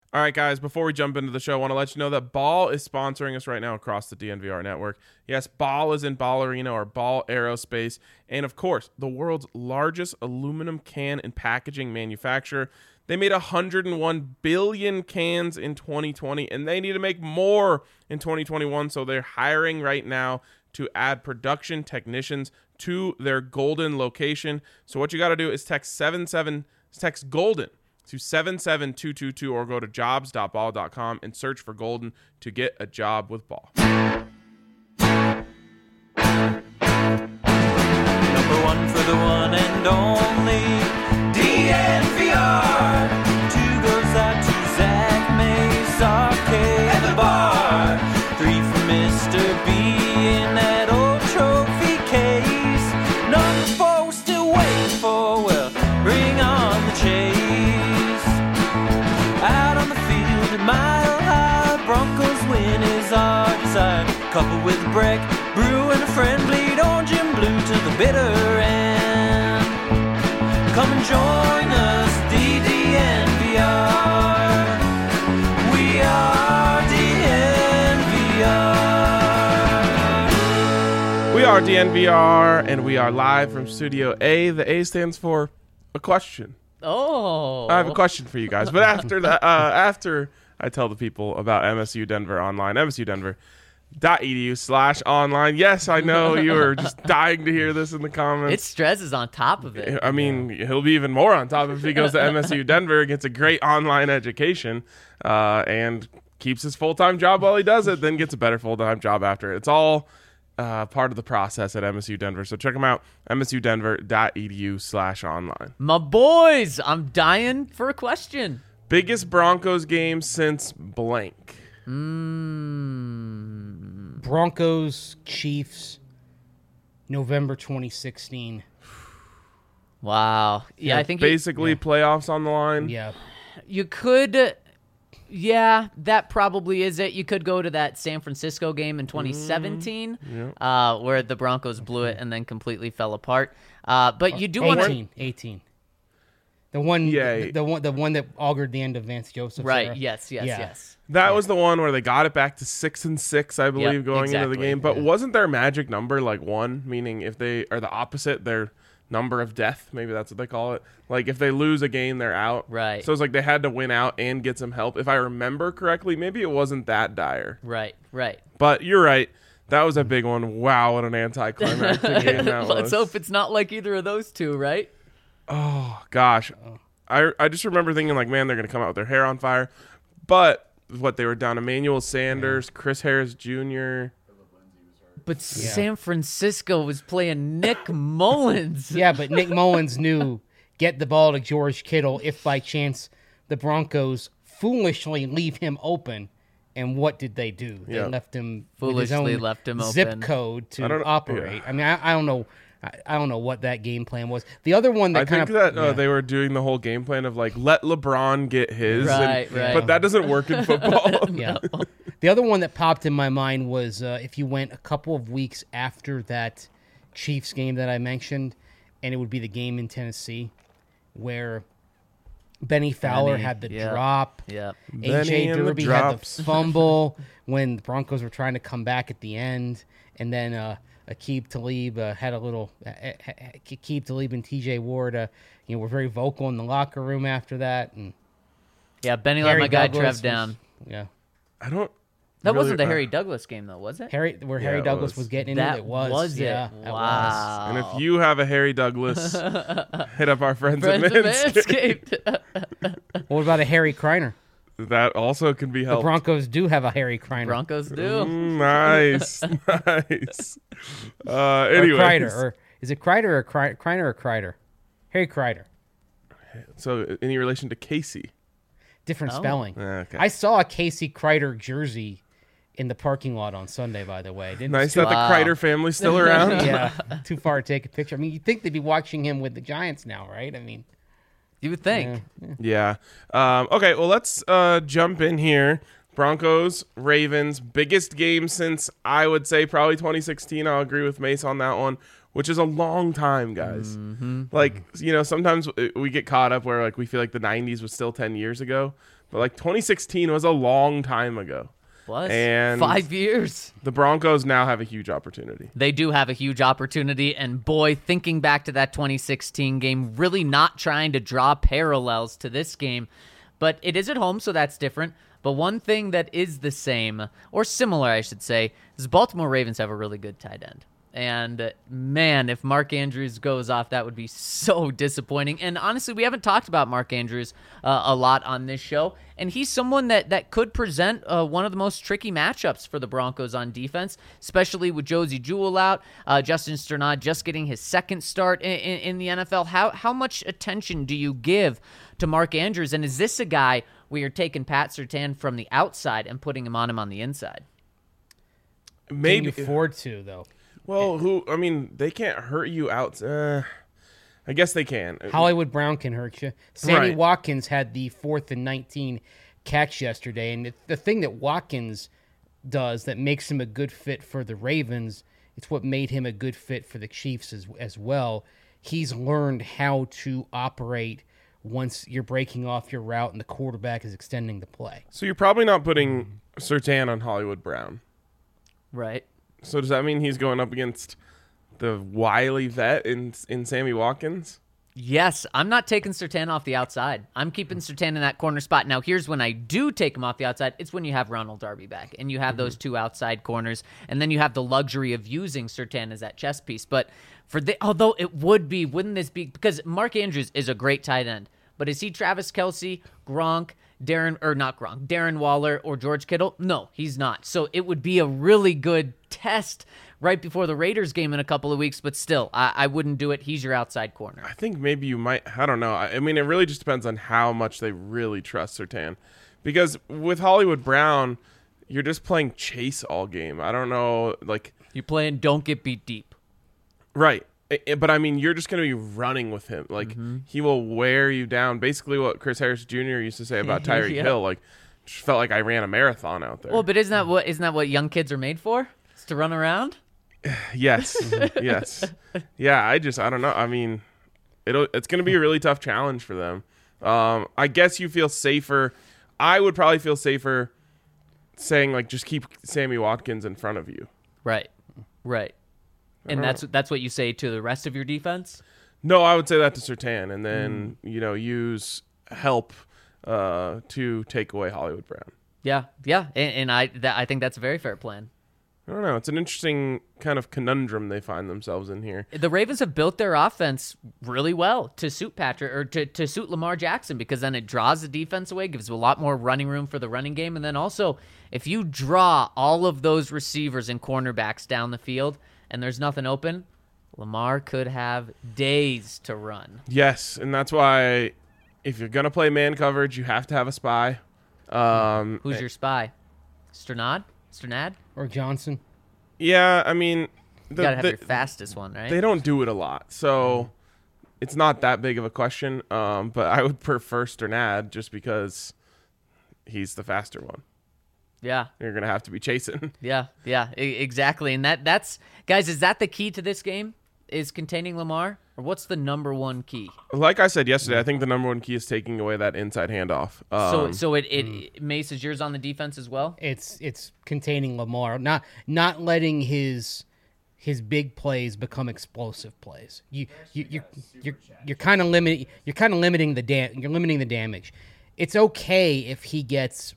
All right, guys, before we jump into the show, I want to let you know that Ball is sponsoring us right now across the DNVR network. Yes, Ball is in Ball Arena or Ball Aerospace. And, of course, the world's largest aluminum can and packaging manufacturer. They made 101 billion cans in 2020, and they need to make more in 2021. So they're hiring right now to add production technicians to their Golden location. So what you got to do is text Golden to 77222 or go to jobs.ball.com and search for Golden to get a job with Ball. Number one for the one and only DNVR. Two goes out to Zach Mays, Arcade, and the bar. Three for Mr. B in that old trophy case. Number four we're still waiting for, well, bring on the chase. Out on the field at Mile High, Broncos win is our desire. Couple with a break, brew and a friend, bleed orange and blue to the bitter end. Come and join us, DNVR. We are DNVR. We are DNVR, and we are live from Studio A. The A stands for a question. Oh. I have a question for you guys, but after that, after I tell the people about MSU Denver Online, msudenver.edu/online. Yes, I know you are just dying to hear this in the comments. It's Strez is on top of it. I mean, he'll be even more on top if he goes to MSU Denver, gets a great online education, and keeps his full-time job while he does it, then gets a better full-time job after. It's all part of the process at MSU Denver. So check them out, msudenver.edu/online. My boys, I'm dying for a question. Biggest Broncos game since blank. Broncos, Chiefs, November 2016. Wow. Yeah, I think basically playoffs on the line. Yeah. you could. Yeah, that probably is it. You could go to that San Francisco game in 2017, where the Broncos blew it and then completely fell apart. But you do want to 18. The one, the one that augured the end of Vance Joseph's right? era. Yes. That was the one where they got it back to 6-6, I believe, going into the game. But wasn't their magic number like 1? Meaning if they are the opposite, their number of death, maybe that's what they call it. Like if they lose a game, they're out. Right. So it's like they had to win out and get some help. If I remember correctly, maybe it wasn't that dire. Right. But you're right. That was a big one. Wow, what an anticlimactic game that was. Let's hope it's not like either of those two, right? Oh, gosh. I just remember thinking, like, man, they're going to come out with their hair on fire. But what, they were down Emmanuel Sanders, Chris Harris Jr. But San Francisco was playing Nick Mullins. Yeah, but Nick Mullins knew get the ball to George Kittle if by chance the Broncos foolishly leave him open. And what did they do? They left him foolishly with his own zip open. code to operate. I mean, I don't know. I don't know what that game plan was. The other one that they were doing the whole game plan of like let LeBron get his, right. But that doesn't work in football. Yeah. The other one that popped in my mind was if you went a couple of weeks after that Chiefs game that I mentioned, and it would be the game in Tennessee where Benny Fowler had the drop. Yeah. A.J. Derby had the fumble when the Broncos were trying to come back at the end, and then Aqib Talib had a little. Aqib Talib and T.J. Ward, were very vocal in the locker room after that, and Benny let my guy Trev down. I don't. That wasn't the Harry Douglas game, though, was it? Harry Douglas was getting in it. It was. Yeah, it wow. And if you have a Harry Douglas, hit up our friends at Manscaped. What about a Harry Kreiner? That also can be helped. The Broncos do have a Harry Kreiner. Broncos do. Nice. Anyway, Kreider, or is it Kreider or Kreiner or Kreider? Harry Kreider. So, any relation to Casey? Different spelling. Okay. I saw a Casey Kreider jersey in the parking lot on Sunday, by the way. Nice that the Kreider family's still around. Yeah, too far to take a picture. I mean, you'd think they'd be watching him with the Giants now, right? I mean, you would think. Yeah. Okay, well, let's jump in here. Broncos, Ravens, biggest game since, I would say, probably 2016. I'll agree with Mace on that one, which is a long time, guys. Mm-hmm. Like, sometimes we get caught up where, like, we feel like the 90s was still 10 years ago. but like 2016 was a long time ago. Was And 5 years. The Broncos now have a huge opportunity. They do have a huge opportunity, and boy, thinking back to that 2016 game, really not trying to draw parallels to this game, but it is at home, so that's different. But one thing that is the same, or similar, I should say, is Baltimore Ravens have a really good tight end. And man, if Mark Andrews goes off, that would be so disappointing. And honestly, we haven't talked about Mark Andrews a lot on this show. And he's someone that could present one of the most tricky matchups for the Broncos on defense, especially with Josie Jewell out. Justin Strnad just getting his second start in the NFL. How much attention do you give to Mark Andrews? And is this a guy where you're taking Pat Surtain from the outside and putting him on the inside? Maybe Can you afford to, though? Well, they can't hurt you out. I guess they can. Hollywood Brown can hurt you. Sammy Right. Watkins had the 4th and 19 catch yesterday, and the thing that Watkins does that makes him a good fit for the Ravens, it's what made him a good fit for the Chiefs as well. He's learned how to operate once you're breaking off your route and the quarterback is extending the play. So you're probably not putting Surtain on Hollywood Brown. Right. So does that mean he's going up against the wily vet in Sammy Watkins? Yes, I'm not taking Surtain off the outside. I'm keeping Surtain in that corner spot. Now, here's when I do take him off the outside. It's when you have Ronald Darby back, and you have those two outside corners, and then you have the luxury of using Surtain as that chess piece. But although it wouldn't this be, because Mark Andrews is a great tight end, but is he Travis Kelce, Gronk, Darren Waller, or George Kittle? No, he's not. So it would be a really good test right before the Raiders game in a couple of weeks, but still, I wouldn't do it. He's your outside corner. I think maybe you might. I don't know. I mean, it really just depends on how much they really trust Surtain. Because with Hollywood Brown, you're just playing chase all game. I don't know. Like, You're playing don't get beat deep. right. But I mean, you're just going to be running with him. Like, he will wear you down. Basically what Chris Harris Jr. used to say about Tyreek Yeah. Hill. Like, just felt like I ran a marathon out there. Well, but isn't that what young kids are made for? It's to run around? Yes. Yes. Yeah, I don't know. I mean, it's going to be a really tough challenge for them. I guess you feel safer. I would probably feel safer saying, like, just keep Sammy Watkins in front of you. Right. And that's what you say to the rest of your defense? No, I would say that to Surtain, and then, use help to take away Hollywood Brown. Yeah. And I think that's a very fair plan. I don't know. It's an interesting kind of conundrum they find themselves in here. The Ravens have built their offense really well to suit Patrick or to suit Lamar Jackson, because then it draws the defense away, gives a lot more running room for the running game. And then also, if you draw all of those receivers and cornerbacks down the field and there's nothing open, Lamar could have days to run. Yes, and that's why if you're going to play man coverage, you have to have a spy. Who's your spy? Strnad? Or Johnson. Yeah, I mean, You gotta have your fastest one, right? they don't do it a lot, so it's not that big of a question. But I would prefer Strnad just because he's the faster one. Yeah. You're gonna have to be chasing. Yeah, exactly. And that's guys, is that the key to this game? Is containing Lamar? Or what's the number one key? Like I said yesterday, I think the number one key is taking away that inside handoff. So Mace, is yours on the defense as well? It's containing Lamar, not letting his big plays become explosive plays. You're kind of limiting the damage. It's okay if he gets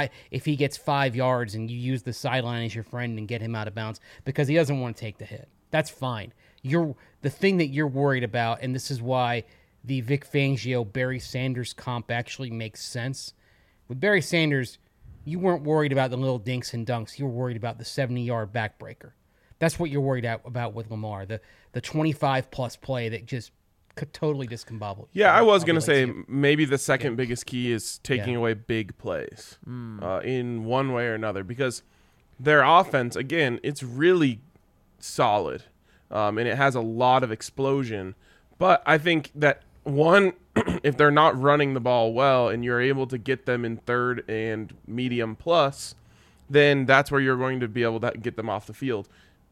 5 yards and you use the sideline as your friend and get him out of bounds because he doesn't want to take the hit. That's fine. The thing that you're worried about, and this is why the Vic Fangio Barry Sanders comp actually makes sense. With Barry Sanders, you weren't worried about the little dinks and dunks. You were worried about the 70-yard backbreaker. That's what you're worried about with Lamar, the 25-plus play that just could totally discombobble. Yeah, I was going to say maybe the second biggest key is taking away big plays in one way or another, because their offense, again, it's really solid, and it has a lot of explosion. But I think that, one, if they're not running the ball well and you're able to get them in third and medium plus, then that's where you're going to be able to get them off the field.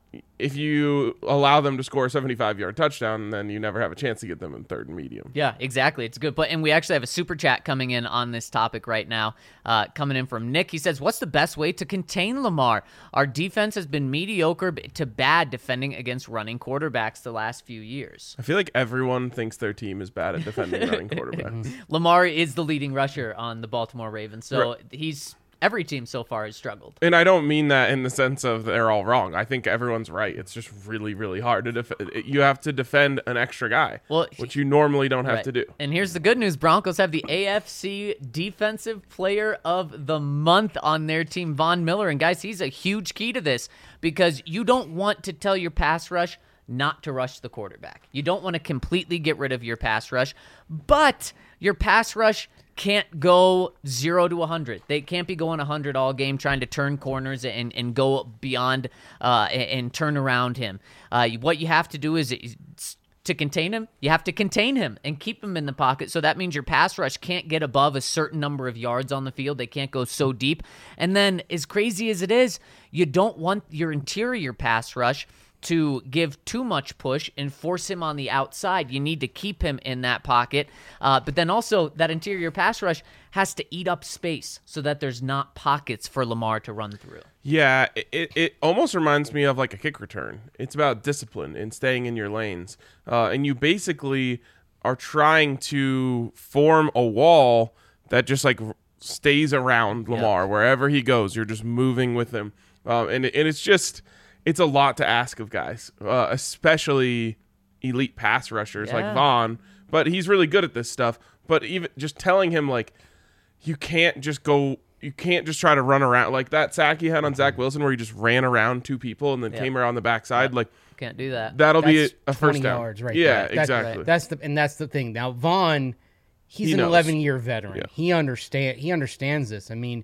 if you allow them to score a 75-yard touchdown, then you never have a chance to get them in 3rd and medium. Yeah, exactly. It's a good point. And we actually have a super chat coming in on this topic right now, coming in from Nick. He says, what's the best way to contain Lamar? Our defense has been mediocre to bad defending against running quarterbacks the last few years. I feel like everyone thinks their team is bad at defending running quarterbacks. Lamar is the leading rusher on the Baltimore Ravens, so every team so far has struggled. And I don't mean that in the sense of they're all wrong. I think everyone's right. It's just really, really hard to defend. You have to defend an extra guy, which you normally don't have to do. And here's the good news. Broncos have the AFC Defensive Player of the Month on their team, Von Miller. And, guys, he's a huge key to this because you don't want to tell your pass rush not to rush the quarterback. You don't want to completely get rid of your pass rush, but your pass rush can't go 0 to 100. They can't be going 100 all game trying to turn corners and go beyond and turn around him. What you have to do is to contain him, you have to contain him and keep him in the pocket. So that means your pass rush can't get above a certain number of yards on the field. They can't go so deep. And then as crazy as it is, you don't want your interior pass rush to give too much push and force him on the outside. You need to keep him in that pocket. But then also that interior pass rush has to eat up space so that there's not pockets for Lamar to run through. Yeah, it almost reminds me of like a kick return. It's about discipline and staying in your lanes. And you basically are trying to form a wall that just like stays around Lamar. Wherever he goes, you're just moving with him. And it's just... It's a lot to ask of guys, especially elite pass rushers like Von. But he's really good at this stuff. But even just telling him, like, you can't just try to run around. Like that sack he had on Zach Wilson where he just ran around 2 people and then came around the backside. Like, can't do that. That'll be a 20 first down. yards right yeah, there. exactly. That's the thing. Now, Von, he's an 11-year veteran. Yeah. He understands this. I mean,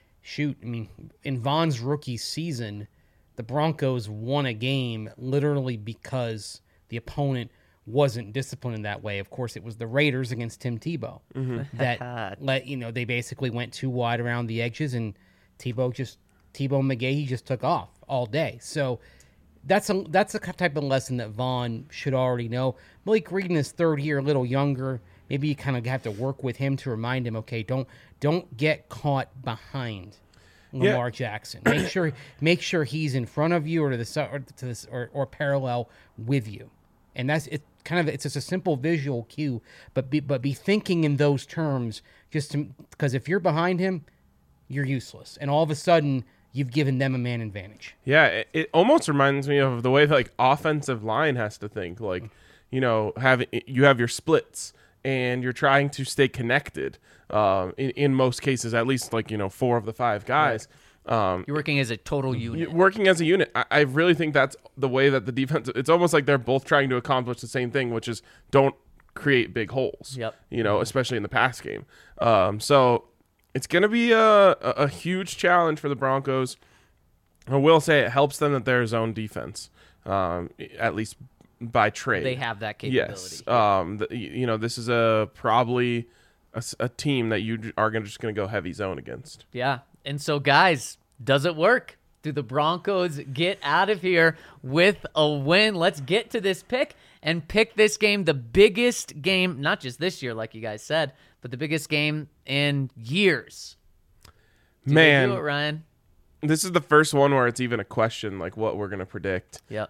in Von's rookie season, the Broncos won a game literally because the opponent wasn't disciplined in that way. Of course, it was the Raiders against Tim Tebow that they basically went too wide around the edges, and Tebow McGahee just took off all day. So that's the type of lesson that Von should already know. Malik Reed in his 3rd year, a little younger. Maybe you kind of have to work with him to remind him, okay, don't get caught behind Lamar Jackson. Make sure he's in front of you or to the side or parallel with you. And that's it. It's just a simple visual cue, but be thinking in those terms because if you're behind him, you're useless, and all of a sudden you've given them a man advantage. Yeah, it almost reminds me of the way that, like, offensive line has to think. Like, you have your splits and you're trying to stay connected. In most cases, at least, like, 4 of the 5 guys. You're working as a total unit. You're working as a unit. I really think that's the way that the defense. It's almost like they're both trying to accomplish the same thing, which is don't create big holes. Yep. Especially in the pass game. So it's going to be a huge challenge for the Broncos. I will say it helps them that they're a zone defense, at least by trade. They have that capability. Yes. This is probably a team that you are just going to go heavy zone against. Yeah. And so, guys, does it work? Do the Broncos get out of here with a win? Let's get to this pick and pick this game, the biggest game, not just this year, like you guys said, but the biggest game in years. Man, do it, Ryan. This is the first one where it's even a question, like what we're going to predict. Yep.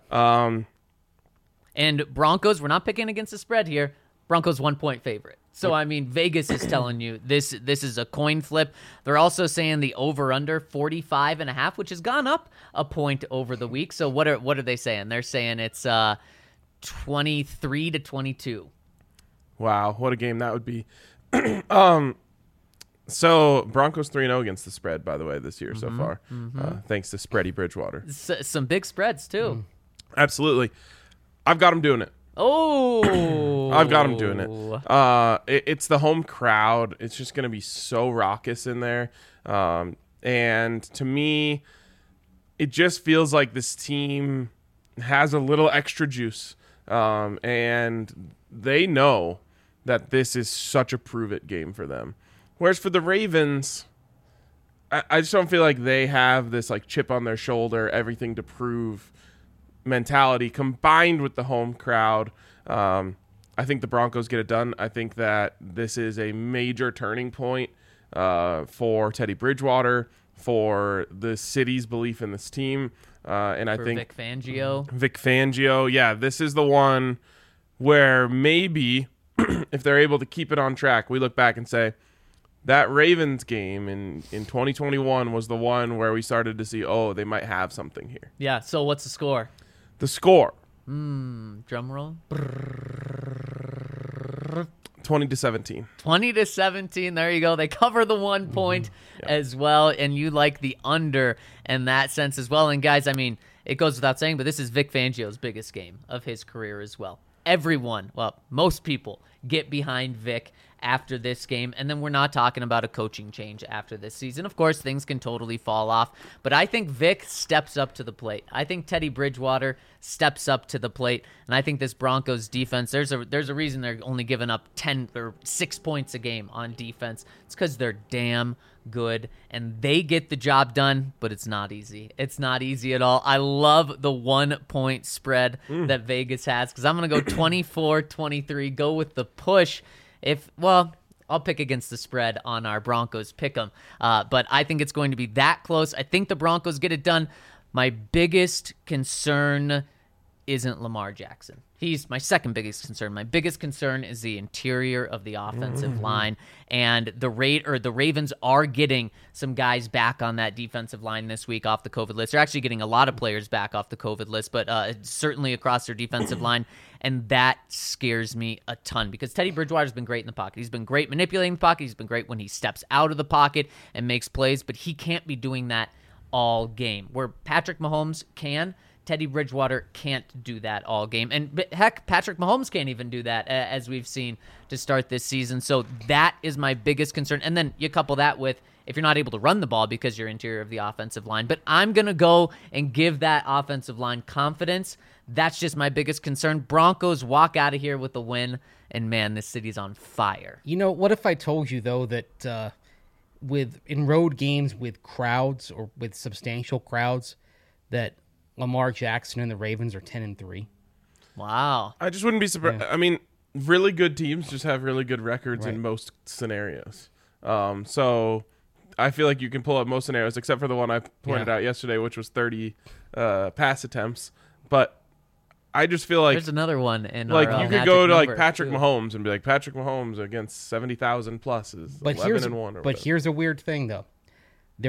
And Broncos, we're not picking against the spread here. Broncos 1-point favorite. So, I mean, Vegas is telling you this is a coin flip. They're also saying the over-under 45.5, which has gone up a point over the week. So what are they saying? They're saying it's 23-22. Wow, what a game that would be. So Broncos 3-0 against the spread, by the way, this year so far. Thanks to Spready Bridgewater. Some big spreads, too. Absolutely. I've got them doing it. Oh, I've got them doing it. It's the home crowd. It's just going to be so raucous in there. And to me, it just feels like this team has a little extra juice. And they know that this is such a prove-it game for them. Whereas for the Ravens, I just don't feel like they have this like chip on their shoulder, everything to prove mentality combined with the home crowd. I think the Broncos get it done. I think that this is a major turning point for Teddy Bridgewater, for the city's belief in this team. And I think Vic Fangio. Vic Fangio, yeah, this is the one where maybe if they're able to keep it on track, we look back and say that Ravens game in 2021 was the one where we started to see, oh, they might have something here. Yeah. So what's the score? The score, Drum roll. 20-17. 20-17. There you go. They cover the 1 point as well, and you like the under in that sense as well. And guys, I mean, it goes without saying, but this is Vic Fangio's biggest game of his career as well. Everyone, well, most people get behind Vic after this game, and then we're not talking about a coaching change after this season. Of course, things can totally fall off, but I think Vic steps up to the plate. I think Teddy Bridgewater steps up to the plate, and I think this Broncos defense, there's a reason they're only giving up 10 or 6 points a game on defense. It's because they're damn good, and they get the job done, but it's not easy. It's not easy at all. I love the 1 point spread that Vegas has, because I'm going to go 24-23, go with the push. I'll pick against the spread on our Broncos pick'em, but I think it's going to be that close. I think the Broncos get it done. My biggest concern isn't Lamar Jackson. He's my second biggest concern. My biggest concern is the interior of the offensive line, and the Ravens are getting some guys back on that defensive line this week off the COVID list. They're actually getting a lot of players back off the COVID list, but certainly across their defensive line, and that scares me a ton because Teddy Bridgewater's been great in the pocket. He's been great manipulating the pocket. He's been great when he steps out of the pocket and makes plays, but he can't be doing that all game. Where Patrick Mahomes can, Teddy Bridgewater can't do that all game. And heck, Patrick Mahomes can't even do that, as we've seen to start this season. So that is my biggest concern. And then you couple that with if you're not able to run the ball because you're interior of the offensive line. But I'm going to go and give that offensive line confidence. That's just my biggest concern. Broncos walk out of here with a win. And man, this city's on fire. You know, what if I told you, though, that in road games with crowds or with substantial crowds, that Lamar Jackson and the Ravens are 10-3. Wow. I just wouldn't be surprised. Yeah. I mean, really good teams just have really good records Right. in most scenarios. So I feel like you can pull up most scenarios, except for the one I pointed out yesterday, which was 30 pass attempts. But I just feel like There's another one in like our you could magic go to like number, Patrick too. Mahomes and be like Patrick Mahomes against 70,000 plus is But 11-1. here's a weird thing, though. They're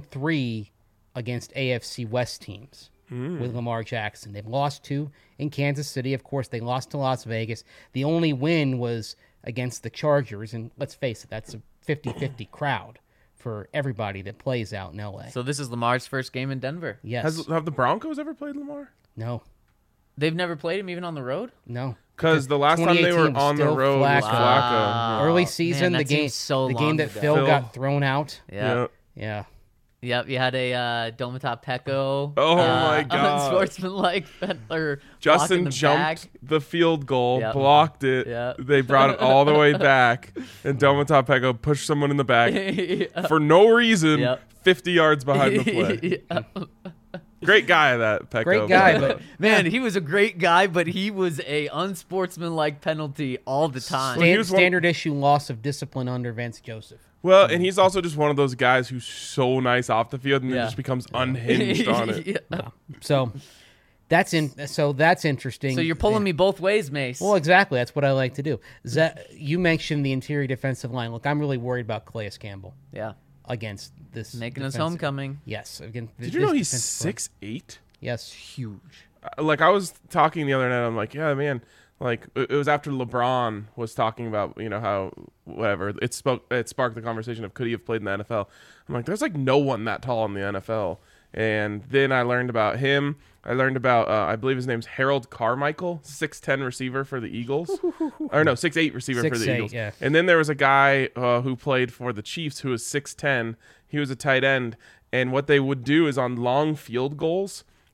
1-3 against AFC West teams with Lamar Jackson. They've lost 2 in Kansas City. Of course, they lost to Las Vegas. The only win was against the Chargers, and let's face it, that's a 50-50 crowd for everybody that plays out in L.A. So this is Lamar's first game in Denver. Yes. Have the Broncos ever played Lamar? No. They've never played him even on the road? No. Because the last time they were 2018 was on the still road was Flacco. Flacco. Early Man, season, that the game seems so the long game that ago. Phil Phil. got thrown out. Yeah. Yeah. Yep, you had a Domata Peko. Oh, my God. Unsportsmanlike or Justin blocking the jumped bag. the field goal, Yep. blocked it. Yep. They brought it all the way back, and Domata Peko pushed someone in the back for no reason, Yep. 50 yards behind the play. Yeah. Great guy, that Peko. Great guy, but Man, he was a great guy, but he was a unsportsmanlike penalty all the time. Well, he was one- standard issue loss of discipline under Vance Joseph. Well, and he's also just one of those guys who's so nice off the field and then Yeah. just becomes unhinged on it. Yeah. So that's interesting. So you're pulling me both ways, Mace. Well, exactly. That's what I like to do. You mentioned the interior defensive line. Look, I'm really worried about Calais Campbell Yeah. against this Making his defensive- homecoming. Yes. Against Did you know he's 6'8"? Yes. Huge. Like, I was talking the other night, I'm like, yeah, man. Like, it was after LeBron was talking about, how, whatever, it sparked the conversation of could he have played in the NFL. I'm like, there's, like, no one that tall in the NFL. And then I learned about him. I learned about, I believe his name's Harold Carmichael, 6'10" receiver for the Eagles. Or no, 6'8" receiver for the 6'8", Eagles. yeah. And then there was a guy who played for the Chiefs who was 6'10". He was a tight end. And what they would do is on long field goals,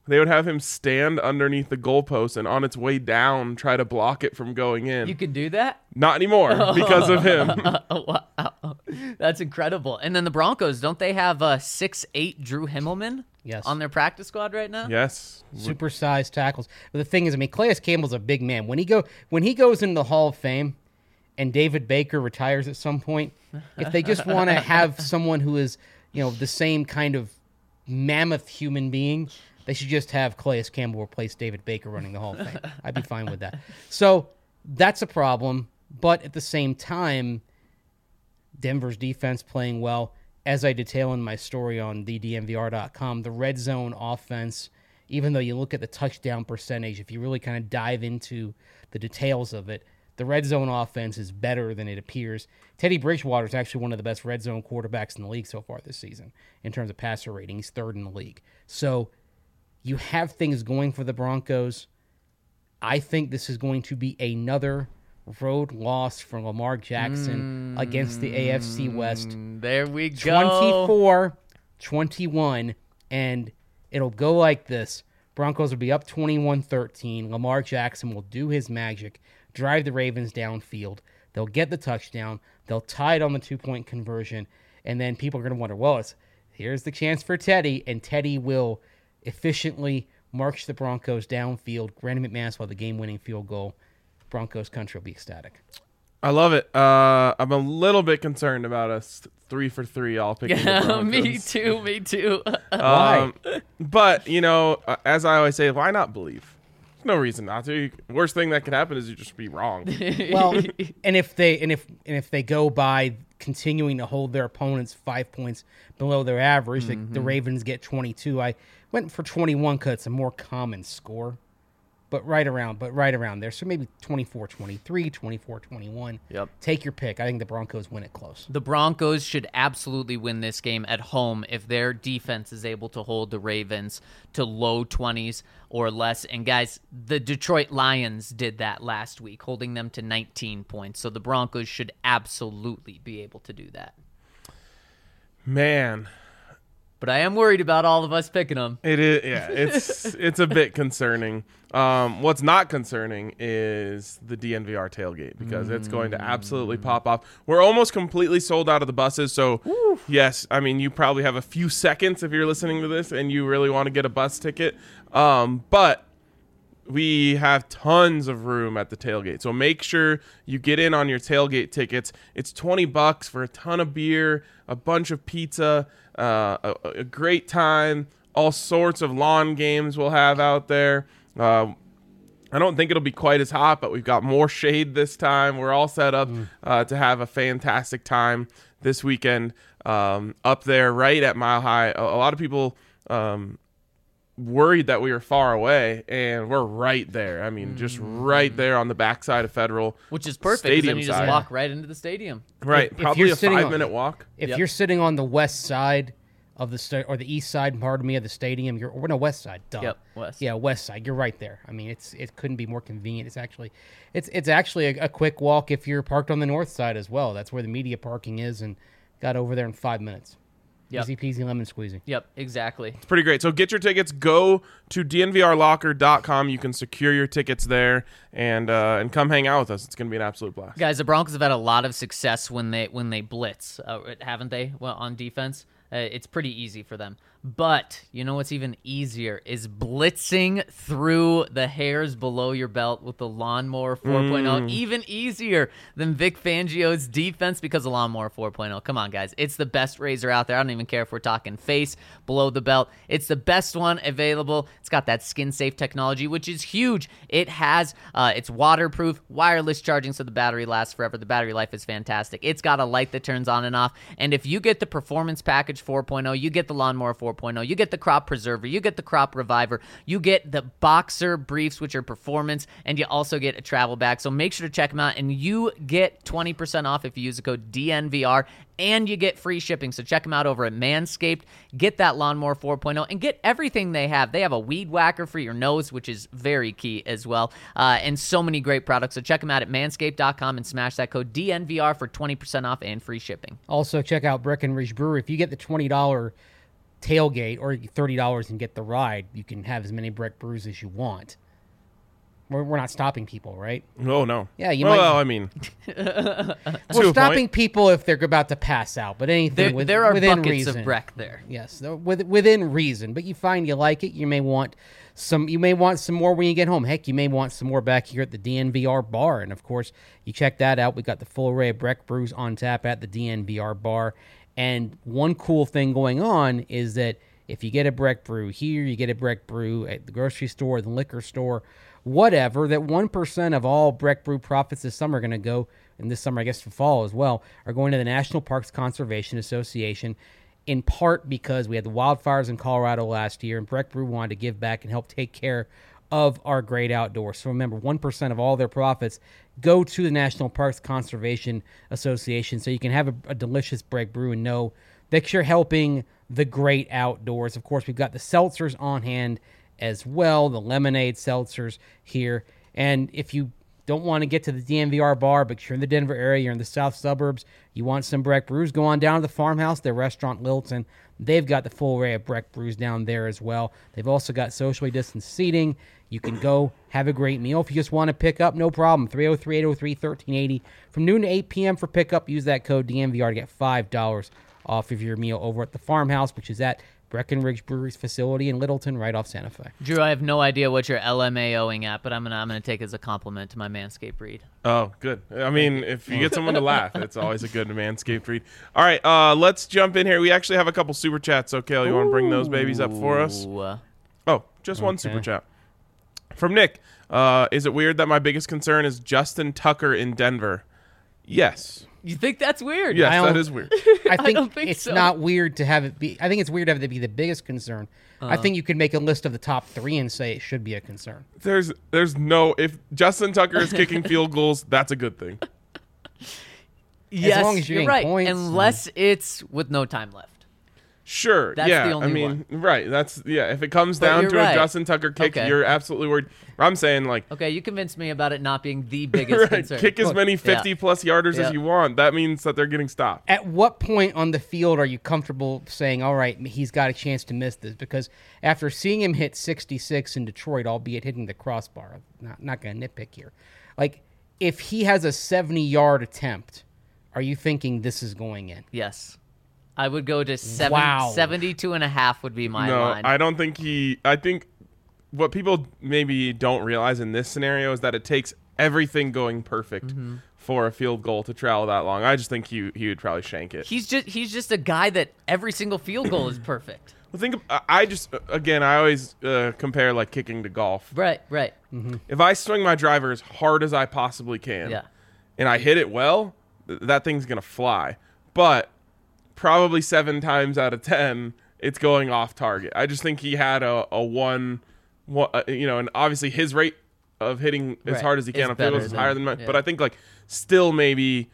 They would have him stand underneath the goalpost and on its way down try to block it from going in. You could do that? Not anymore because of him. Wow. That's incredible. And then the Broncos, don't they have 6'8" Drew Himmelman Yes. on their practice squad right now? Yes. Supersized tackles. But the thing is, I mean, Calais Campbell's a big man. When he goes into the Hall of Fame and David Baker retires at some point, if they just want to have someone who is, the same kind of mammoth human being, they should just have Calais Campbell replace David Baker running the Hall of Fame. I'd be fine with that. So that's a problem. But at the same time, Denver's defense playing well. As I detail in my story on thednvr.com, the red zone offense, even though you look at the touchdown percentage, if you really kind of dive into the details of it, the red zone offense is better than it appears. Teddy Bridgewater is actually one of the best red zone quarterbacks in the league so far this season in terms of passer rating. He's third in the league. So you have things going for the Broncos. I think this is going to be another road loss for Lamar Jackson against the AFC West. There we go. 24-21, and it'll go like this. Broncos will be up 21-13. Lamar Jackson will do his magic, drive the Ravens downfield. They'll get the touchdown. They'll tie it on the 2-point conversion, and then people are going to wonder, well, here's the chance for Teddy, and Teddy will efficiently march the Broncos downfield. Brandon McManus will have the game-winning field goal. Broncos country will be ecstatic. I love it. I'm a little bit concerned about us 3 for 3 all picking the Broncos. Me too. Why? But, as I always say, why not believe? There's no reason not to. Worst thing that could happen is you just be wrong. Well, and if they go by continuing to hold their opponents 5 points below their average, the Ravens get 22. I went for 21 because it's a more common score. But right around there. So maybe 24-23, 24-21. Yep. Take your pick. I think the Broncos win it close. The Broncos should absolutely win this game at home if their defense is able to hold the Ravens to low 20s or less. And guys, the Detroit Lions did that last week, holding them to 19 points. So the Broncos should absolutely be able to do that. Man. But I am worried about all of us picking them. It is, yeah. It's a bit concerning. What's not concerning is the DNVR tailgate because it's going to absolutely pop off. We're almost completely sold out of the buses, so yes, I mean you probably have a few seconds if you're listening to this and you really want to get a bus ticket. But we have tons of room at the tailgate, so make sure you get in on your tailgate tickets. It's $20 for a ton of beer, a bunch of pizza, a great time, all sorts of lawn games we'll have out there. I don't think it'll be quite as hot, but we've got more shade this time. We're all set up to have a fantastic time this weekend up there right at Mile High. A lot of people worried that we were far away, and we're right there. I mean, just right there on the backside of Federal. Which is perfect, because then you just walk right into the stadium. Right, probably a 5-minute walk. If you're sitting on the west side of the or the east side, pardon me, of the stadium, we're no west side. Duh. Yep, west. Yeah, west side. You're right there. I mean, it couldn't be more convenient. It's actually a quick walk if you're parked on the north side as well. That's where the media parking is, and got over there in 5 minutes. Yep. Easy peasy lemon squeezy. Yep, exactly. It's pretty great. So get your tickets. Go to dnvrlocker.com. You can secure your tickets there and come hang out with us. It's going to be an absolute blast. Guys, the Broncos have had a lot of success when they blitz, haven't they? Well, on defense, it's pretty easy for them. But you know what's even easier is blitzing through the hairs below your belt with the Lawnmower 4.0. Even easier than Vic Fangio's defense because of Lawnmower 4.0. Come on, guys. It's the best razor out there. I don't even care if we're talking face, below the belt. It's the best one available. It's got that skin-safe technology, which is huge. It has, it's waterproof, wireless charging, so the battery lasts forever. The battery life is fantastic. It's got a light that turns on and off. And if you get the Performance Package 4.0, you get the Lawnmower 4.0, you get the Crop Preserver, you get the Crop Reviver, you get the Boxer Briefs, which are performance, and you also get a travel bag. So make sure to check them out, and you get 20% off if you use the code DNVR, and you get free shipping. So check them out over at Manscaped. Get that Lawnmower 4.0 and get everything they have. They have a weed whacker for your nose, which is very key as well, and so many great products. So check them out at manscaped.com and smash that code DNVR for 20% off and free shipping. Also, check out Breckenridge Brewery. If you get the $20 tailgate, or $30 and get the ride. You can have as many Breck Brews as you want. We're not stopping people, right? Oh, no. Yeah, you well, might. I mean, We're stopping people if they're about to pass out, but anything There are within buckets reason. of Breck there. Yes, within reason. But you find you like it, you may want some. You may want some more when you get home. Heck, you may want some more back here at the DNVR bar. And of course, you check that out. We got the full array of Breck Brews on tap at the DNVR bar. And one cool thing going on is that if you get a Breck Brew here, you get a Breck Brew at the grocery store, the liquor store, whatever, that 1% of all Breck Brew profits this summer are going to go, and this summer, I guess for fall as well, are going to the National Parks Conservation Association, in part because we had the wildfires in Colorado last year, and Breck Brew wanted to give back and help take care of our great outdoors. So remember, 1% of all their profits go to the National Parks Conservation Association, so you can have a delicious Breck Brew and know that you're helping the great outdoors. Of course, we've got the seltzers on hand as well, the lemonade seltzers here. And if you don't want to get to the DNVR bar, but you're in the Denver area, you're in the south suburbs, you want some Breck Brews, go on down to the Farmhouse, their restaurant Littleton. They've got the full array of Breck Brews down there as well. They've also got socially distanced seating. You can go have a great meal. If you just want to pick up, no problem. 303-803-1380. From noon to 8 p.m. for pickup, use that code DNVR to get $5 off of your meal over at the Farmhouse, which is at Breckenridge Brewery's facility in Littleton, right off Santa Fe. Drew, I have no idea what you're LMAOing at, but I'm gonna take it as a compliment to my Manscaped read. oh, good. I mean, if you get someone to laugh, it's always a good Manscaped read. All right, let's jump in here. We actually have a couple super chats. So, Kale, you want to bring those babies up for us? Ooh. Oh, just one super chat. From Nick. Is it weird that my biggest concern is Justin Tucker in Denver? Yes. You think that's weird? Yes, that is weird. I don't think it's so. not weird to have it be. I think it's weird to have it be the biggest concern. I think you could make a list of the top 3 and say it should be a concern. There's no, if Justin Tucker is kicking field goals, that's a good thing. Yes, long as you're you're getting right. points, Unless it's with no time left. Sure. That's yeah. the only I mean, one. right. That's if it comes But down you're to right. a Justin Tucker kick, Okay. you're absolutely worried. I'm saying like, Okay, you convinced me about it not being the biggest right, concern. kick as many 50-plus yarders Yeah. as you want. That means that they're getting stopped. At what point on the field are you comfortable saying, all right, he's got a chance to miss this? Because after seeing him hit 66 in Detroit, albeit hitting the crossbar, not going to nitpick here. Like, if he has a 70-yard attempt, are you thinking this is going in? Yes. I would go to Wow. 72.5 would be my No, line. I don't think I think what people maybe don't realize in this scenario is that it takes everything going perfect for a field goal to travel that long. I just think he would probably shank it. He's just a guy that every single field goal is perfect. Well, I always compare like kicking to golf. Right. If I swing my driver as hard as I possibly can, Yeah. and I hit it well, that thing's gonna fly. But probably 7 times out of 10, it's going off target. I just think he had a one, and obviously his rate of hitting as Right. hard as he can Is on field goals better is higher than than- mine. yeah. But I think like still maybe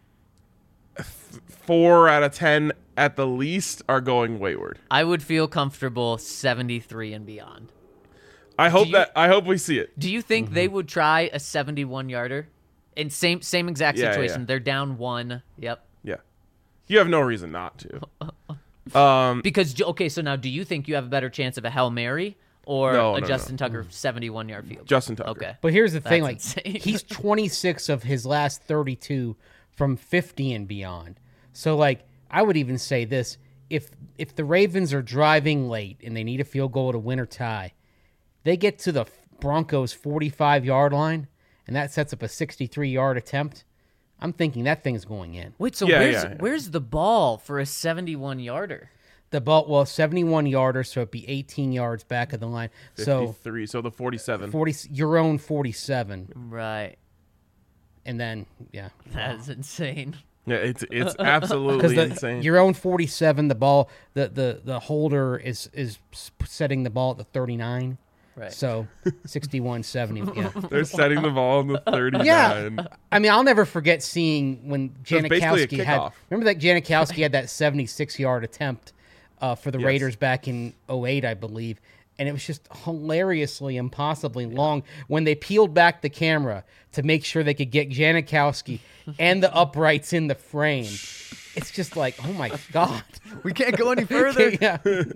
4 out of 10 at the least are going wayward. I would feel comfortable 73 and beyond. I hope you- I hope we see it. Do you think they would try a 71-yarder? In same exact Yeah, situation. yeah. They're down 1. Yep. Yeah, you have no reason not to. Because so now do you think you have a better chance of a Hail Mary or No, a no, Justin Tucker 71-yard field? Justin Tucker. Okay. But here's the thing, That's like insane. he's 26 of his last 32 from 50 and beyond. So like I would even say this, if the Ravens are driving late and they need a field goal to win or tie, they get to the Broncos 45-yard line and that sets up a 63-yard attempt. I'm thinking that thing's going in. Wait, so Yeah. where's the ball for a 71-yarder? The ball, 71-yarder, so it'd be 18 yards back of the line. So 53, so the 47. 40, your own 47, Right. and then yeah. That's insane. Yeah, it's absolutely Because insane. your own 47, the ball, the holder is setting the ball at the 39. Right. So 61, 70. Yeah. They're setting the ball on the 39. Yeah. I mean, I'll never forget seeing when was basically a Janikowski had. kickoff. Remember that Janikowski had that 76-yard attempt for the Yes. Raiders back in 2008, I believe. And it was just hilariously, impossibly long when they peeled back the camera to make sure they could get Janikowski and the uprights in the frame. it's just like, oh my God. We can't go any further. Yeah.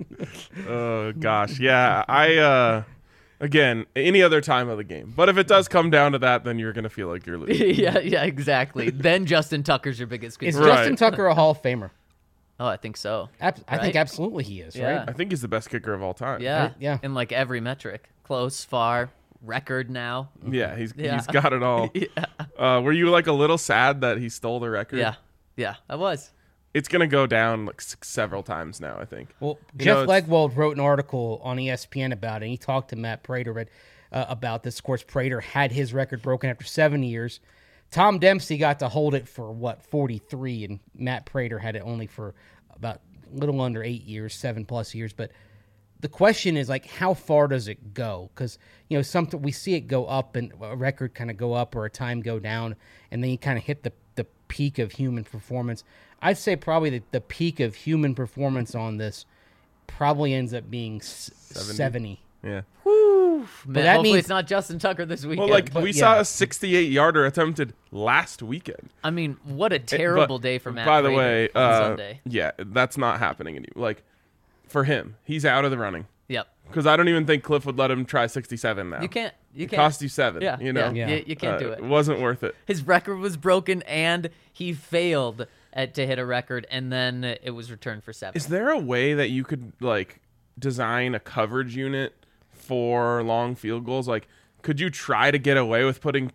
Oh gosh, yeah. I again, any other time of the game, but if it does come down to that, then you're gonna feel like you're losing. yeah, exactly. Then Justin Tucker's your biggest Is concern. Right. Justin Tucker a Hall of Famer? Oh, I think so. I think Right? absolutely he is, Yeah. right? I think he's the best kicker of all time. Yeah, Yeah. In like every metric, close, far, record now. Yeah, he's Yeah. got it all. Were you like a little sad that he stole the record? Yeah, I was. It's gonna go down like several times now, I think. Well, You Jeff know, it's- Legwold wrote an article on ESPN about it, and he talked to Matt Prater about this. Of course, Prater had his record broken after 7 years. Tom Dempsey got to hold it for, 43, and Matt Prater had it only for about a little under 8 years, 7+ years. But the question is, like, how far does it go? Because, something we see it go up, and a record kind of go up or a time go down, and then you kind of hit the peak of human performance. I'd say probably the peak of human performance on this probably ends up being 70. Yeah. Man, that hopefully means- it's not Justin Tucker this weekend. Well, like but we yeah. saw a 68-yarder attempted last weekend. I mean, what a terrible day for Matt. By the Prater way, on Sunday. yeah, that's not happening anymore. Like for him, he's out of the running Yep. because I don't even think Cliff would let him try 67 now. You can't. You It can't. cost you 7. Yeah. you know. Yeah. You can't do it. It wasn't worth it. His record was broken, and he failed to hit a record, and then it was returned for 7. Is there a way that you could like design a coverage unit for long field goals? Like, could you try to get away with putting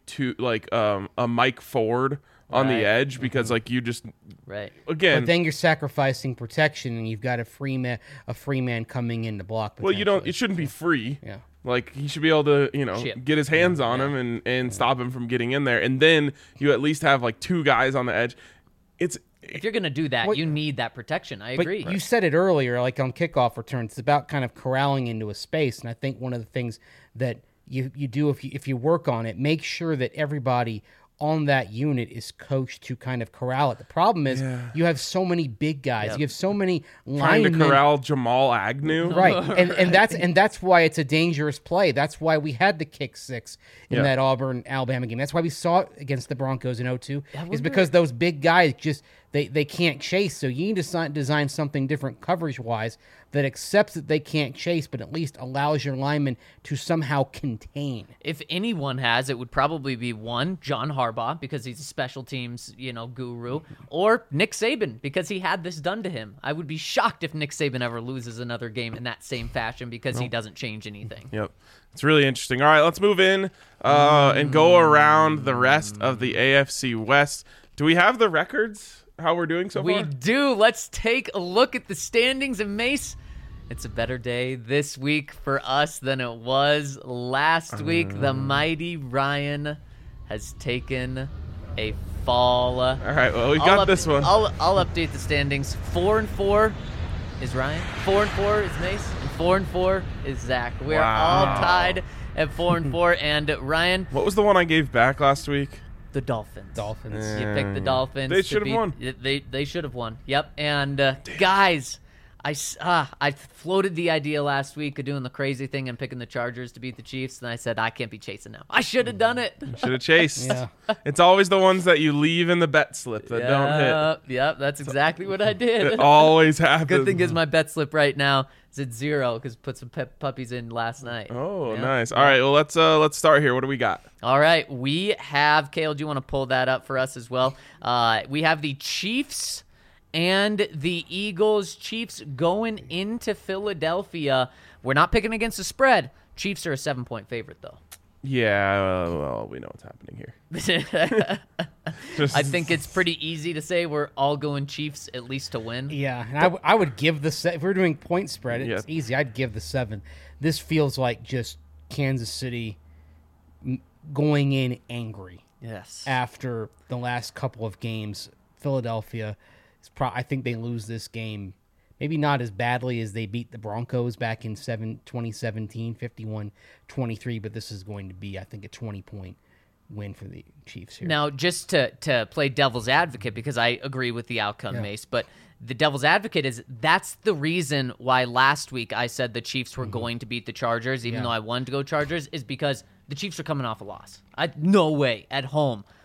a Mike Ford on Right. the edge because like you just Right. again But then you're sacrificing protection, and you've got a free man coming in to block. well you don't potentially. it shouldn't be free. Yeah. Like he should be able to, Chip. get his hands on him and stop him from getting in there. And then you at least have like 2 guys on the edge. If you're gonna do that, Well, you need that protection. I But agree. you said it earlier, like on kickoff returns, it's about kind of corralling into a space. And I think one of the things that you do if you work on it, make sure that everybody on that unit is coached to kind of corral it. The problem is you have so many big guys. You have so many trying to linemen. corral Jamal Agnew. Right, and that's why it's a dangerous play. That's why we had the kick 6 in Yeah. that Auburn Alabama game. That's why we saw it against the Broncos in 02. Is wonder- because those big guys just they can't chase. So you need to design something different coverage wise that accepts that they can't chase, but at least allows your linemen to somehow contain. If anyone has, it would probably be one, John Harbaugh, because he's a special teams, guru, or Nick Saban, because he had this done to him. I would be shocked if Nick Saban ever loses another game in that same fashion because he doesn't change anything. Yep. It's really interesting. All right, let's move in and go around the rest of the AFC West. Do we have the records? How we're doing so We far? do. Let's take a look at the standings. And Mace, it's a better day this week for us than it was last week. The mighty Ryan has taken a fall. All right, well, we got this one. I'll update the standings. 4-4 is Ryan. 4-4 is Mace. And 4-4 is Zach. We're all tied at 4-4. And Ryan, What was the one I gave back last week? the Dolphins. You picked the Dolphins. They to should have beat- won. They should have won. Yep. And guys, I floated the idea last week of doing the crazy thing and picking the Chargers to beat the Chiefs, and I said I can't be chasing now. I should have done it. Should have chased. Yeah. It's always the ones that you leave in the bet slip that don't hit. Yep. That's exactly what I did. It always happens. Good thing is my bet slip right now is at 0 because put some puppies in last night. Oh, Yeah. nice. All right, well let's start here. What do we got? All right, we have Kale. Do you want to pull that up for us as well? We have the Chiefs and the Eagles. Chiefs going into Philadelphia. We're not picking against the spread. Chiefs are a 7-point favorite, though. Yeah, well, we know what's happening here. Just, I think it's pretty easy to say we're all going Chiefs at least to win. Yeah, and I would give the if we're doing point spread, it's Yeah. easy. I'd give the 7. This feels like just Kansas City going in angry Yes. after the last couple of games. Philadelphia, I think they lose this game. Maybe not as badly as they beat the Broncos back in 2017, 51-23, but this is going to be, I think, a 20-point win for the Chiefs here. Now, just to play devil's advocate, because I agree with the outcome, Yeah. Mace, but the devil's advocate is that's the reason why last week I said the Chiefs were going to beat the Chargers, even Yeah. though I wanted to go Chargers, is because the Chiefs are coming off a loss. No way at home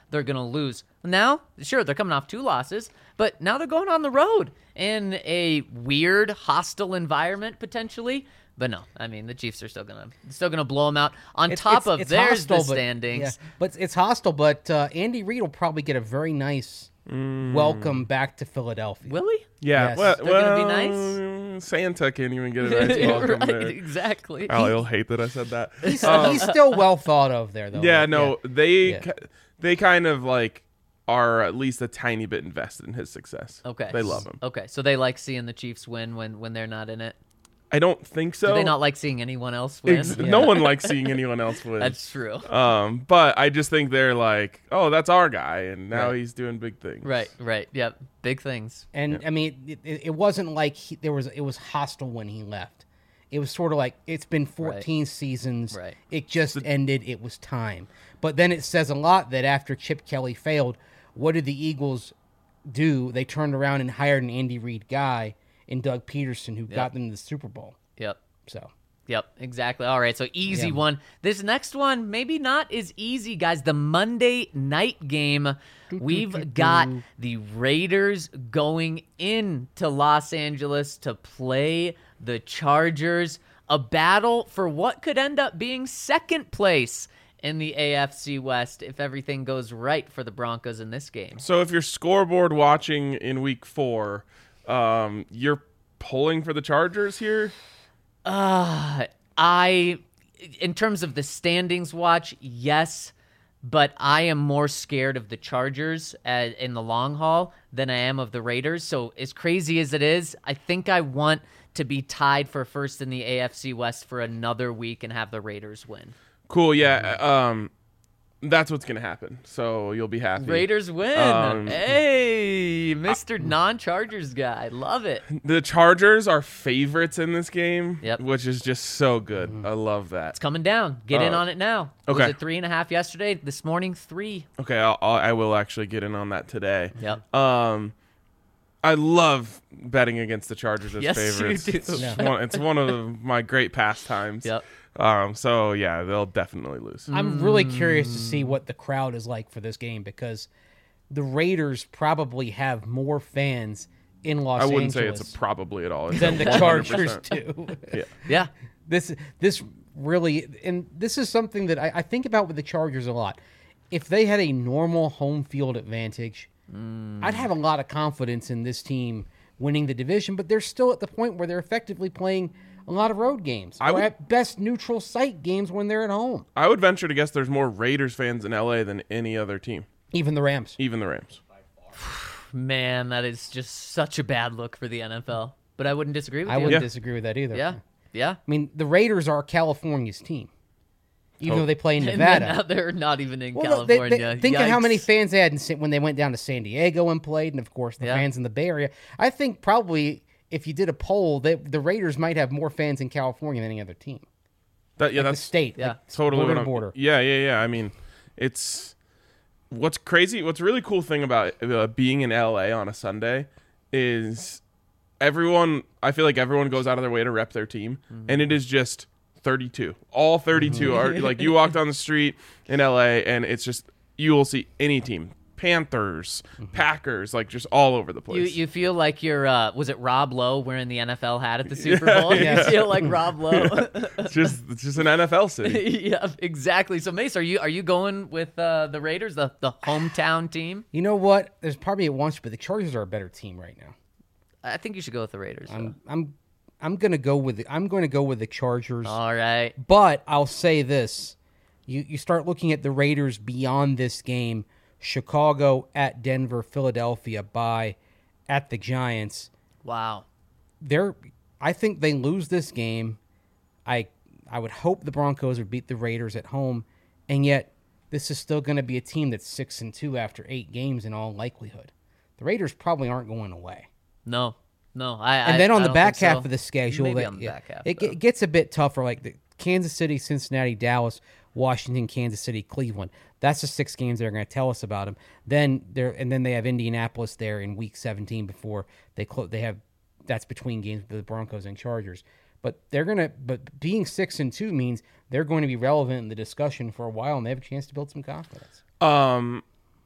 they're going to lose. Now, sure, they're coming off 2 losses, but now they're going on the road in a weird, hostile environment potentially. But no, I mean, the Chiefs are still gonna blow them out. There's the standings. Yeah, but it's hostile. But Andy Reid will probably get a very nice welcome back to Philadelphia. Will he? Yeah, Yes. They're gonna be nice? Santa can't even get a nice welcome right, there. exactly. He'll hate that I said that. He's still well thought of there, though. Yeah, Like, no, Yeah. they kind of like are at least a tiny bit invested in his success. Okay. They love him. Okay, so they like seeing the Chiefs win when they're not in it. I don't think so. Do they not like seeing anyone else win? No one likes seeing anyone else win. That's true. But I just think they're like, oh, that's our guy, and now Right. he's doing big things. Right. Yep. Big things. And I mean, it wasn't like it was hostile when he left. It was sort of like it's been 14 seasons. Right. It just ended. It was time. But then it says a lot that after Chip Kelly failed, what did the Eagles do? They turned around and hired an Andy Reid guy in Doug Peterson who got them to the Super Bowl. Yep. So Yep, exactly. All right, so easy Yeah. one. This next one, maybe not as easy, guys. The Monday night game. We've got the Raiders going into Los Angeles to play the Chargers. A battle for what could end up being second place in the AFC West if everything goes right for the Broncos in this game. So if you're scoreboard watching in week 4, you're pulling for the Chargers here? In terms of the standings watch, yes, but I am more scared of the Chargers in the long haul than I am of the Raiders. So as crazy as it is, I think I want to be tied for first in the AFC West for another week and have the Raiders win. Cool, yeah. That's what's going to happen. So you'll be happy. Raiders win. Hey, Mr. Non-Chargers guy. Love it. The Chargers are favorites in this game, Yep. which is just so good. I love that. It's coming down. Get in on it now. okay. Was it 3.5 yesterday? This morning, 3. Okay, I will actually get in on that today. Yep. I love betting against the Chargers as Yes, you favorites. do. It's one of my great pastimes. Yep. So yeah, they'll definitely lose. I'm really curious to see what the crowd is like for this game because the Raiders probably have more fans in Los I Angeles wouldn't say it's a probably at all. It's than a the 100%. Chargers do. Yeah. This really, and this is something that I think about with the Chargers a lot. If they had a normal home field advantage, I'd have a lot of confidence in this team winning the division, but they're still at the point where they're effectively playing a lot of road games. Or at best neutral site games when they're at home. I would venture to guess there's more Raiders fans in LA than any other team, Even the Rams. even the Rams. Man, that is just such a bad look for the NFL. But I wouldn't disagree with I you. wouldn't disagree with that either. Yeah. Yeah. I mean, the Raiders are California's team, even though they play in And Nevada. now they're not even in Well, they- California. think of how many Yikes. fans they had when they went down to San Diego and played, and of course the Yeah. fans in the Bay Area. I think probably if you did a poll, the Raiders might have more fans in California than any other team. Yeah, The that's state, yeah. like, totally border what to I'm- border. Yeah. I mean, it's what's crazy. What's a really cool thing about being in LA on a Sunday is everyone. I feel like everyone goes out of their way to rep their team, and it is just 32. All 32 are like you walk down the street in LA, and it's just you will see any team. Panthers, Packers, like just all over the place. You feel like you're, was it Rob Lowe wearing the NFL hat at the Super Bowl? Yeah. You feel like Rob Lowe. it's just an NFL city. Yeah, exactly. So, Mace, are you going with the Raiders, the hometown team? You know what? There's probably at once, but the Chargers are a better team right now. I think you should go with the Raiders. though. I'm going to go with the Chargers. All right. But I'll say this: you start looking at the Raiders beyond this game. Chicago at Denver, Philadelphia bye at the Giants. Wow. I think they lose this game. I would hope the Broncos would beat the Raiders at home, and yet this is still going to be a team that's 6-2 after 8 games in all likelihood. The Raiders probably aren't going away. No. And then on the back half of the schedule, Maybe on the back half, it gets a bit tougher. Like the Kansas City, Cincinnati, Dallas, Washington, Kansas City, Cleveland. That's the 6 games they're going to tell us about them. Then they have Indianapolis there in Week 17 before they have that's between games with the Broncos and Chargers. But being 6-2 means they're going to be relevant in the discussion for a while, and they have a chance to build some confidence.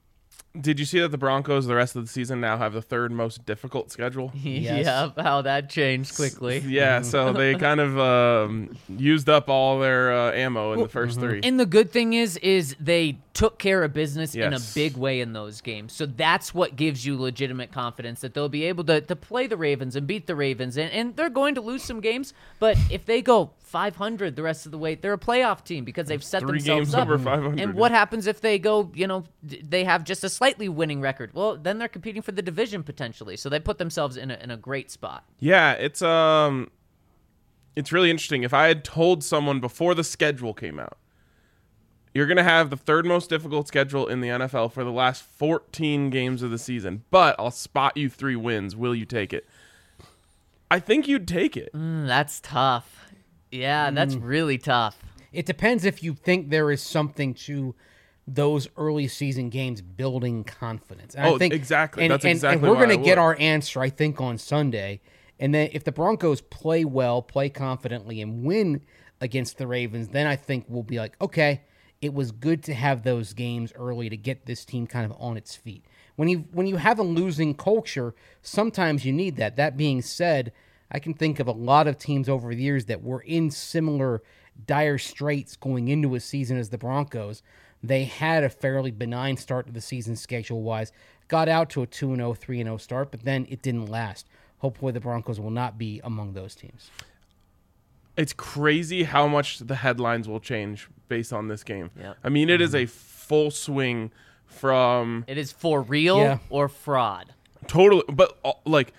Did you see that the Broncos the rest of the season now have the third most difficult schedule? Yes. Yeah, how that changed quickly. Yeah, so they kind of used up all their ammo in the first three. And the good thing is they took care of business in a Yes. big way in those games. So that's what gives you legitimate confidence that they'll be able to play the Ravens and beat the Ravens. And they're going to lose some games, but if they go 500 the rest of the way, they're a playoff team because they've set 3 themselves games up. over 500. And what happens if they go, they have just a slightly winning record? Well, then they're competing for the division potentially. So they put themselves in a great spot. Yeah, it's really interesting. If I had told someone before the schedule came out, you're going to have the third most difficult schedule in the NFL for the last 14 games of the season, but I'll spot you 3 wins. Will you take it? I think you'd take it. That's tough. Yeah, that's really tough. It depends if you think there is something to those early season games building confidence. And I think, exactly. That's and exactly we're why going I to get would. our answer, I think, on Sunday. And then if the Broncos play well, play confidently, and win against the Ravens, then I think we'll be like, okay, it was good to have those games early to get this team kind of on its feet. When you have a losing culture, sometimes you need that. That being said, I can think of a lot of teams over the years that were in similar dire straits going into a season as the Broncos. They had a fairly benign start to the season schedule-wise, got out to a 2-0, 3-0 start, but then it didn't last. Hopefully the Broncos will not be among those teams. It's crazy how much the headlines will change based on this game. Yep. I mean, it is a full swing from It is for real Yeah. or fraud. totally, but like,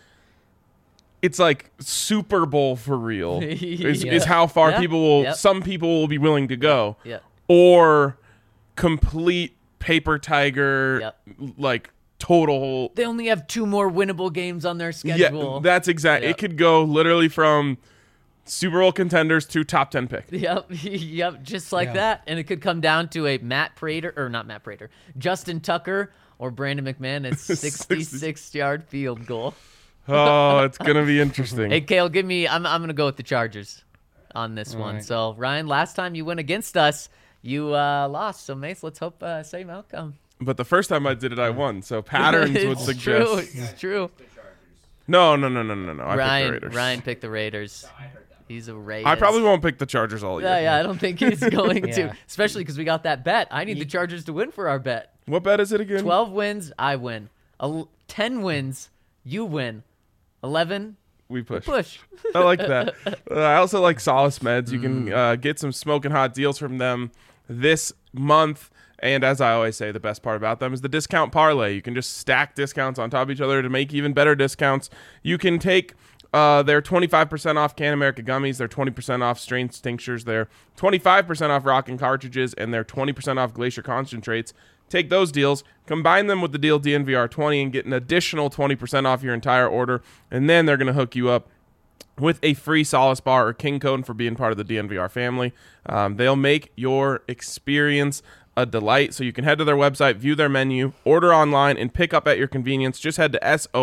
it's like Super Bowl for real is how far Yeah. people will, Yep. some people will be willing to go. Yep. Or complete paper tiger, Yep. like total. They only have 2 more winnable games on their Yeah, schedule. that's exact. Yep. It could go literally from Super Bowl contenders to top 10 pick. Yep, yep, just like Yeah. that. And it could come down to a not Matt Prater, Justin Tucker or Brandon McManus 66-yard field goal. Oh, it's gonna be interesting. Hey, Kale, I'm going to go with the Chargers on this one. right. So, Ryan, last time you went against us, you lost. So, Mace, let's hope same outcome. But the first time I did it, I won. So patterns would It's suggest. true. It's true. No. I picked the Raiders. Ryan picked the Raiders. He's a Raiders. I probably won't pick the Chargers all year. Yeah, I don't think he's going to, Yeah. especially because we got that bet. I need the Chargers to win for our bet. What bet is it again? 12 wins, I win. 10 wins, you win. 11, We push. push. I like that. I also like Solace Meds. You can get some smoking hot deals from them this month. And as I always say, the best part about them is the discount parlay. You can just stack discounts on top of each other to make even better discounts. You can take their 25% off Can America gummies, their 20% off strain tinctures, their 25% off Rockin' cartridges, and their 20% off Glacier concentrates. Take those deals, combine them with the deal DNVR20, and get an additional 20% off your entire order. And then they're going to hook you up with a free Solace bar or King code for being part of the DNVR family. They'll make your experience a delight. So you can head to their website, view their menu, order online, and pick up at your convenience. Just head to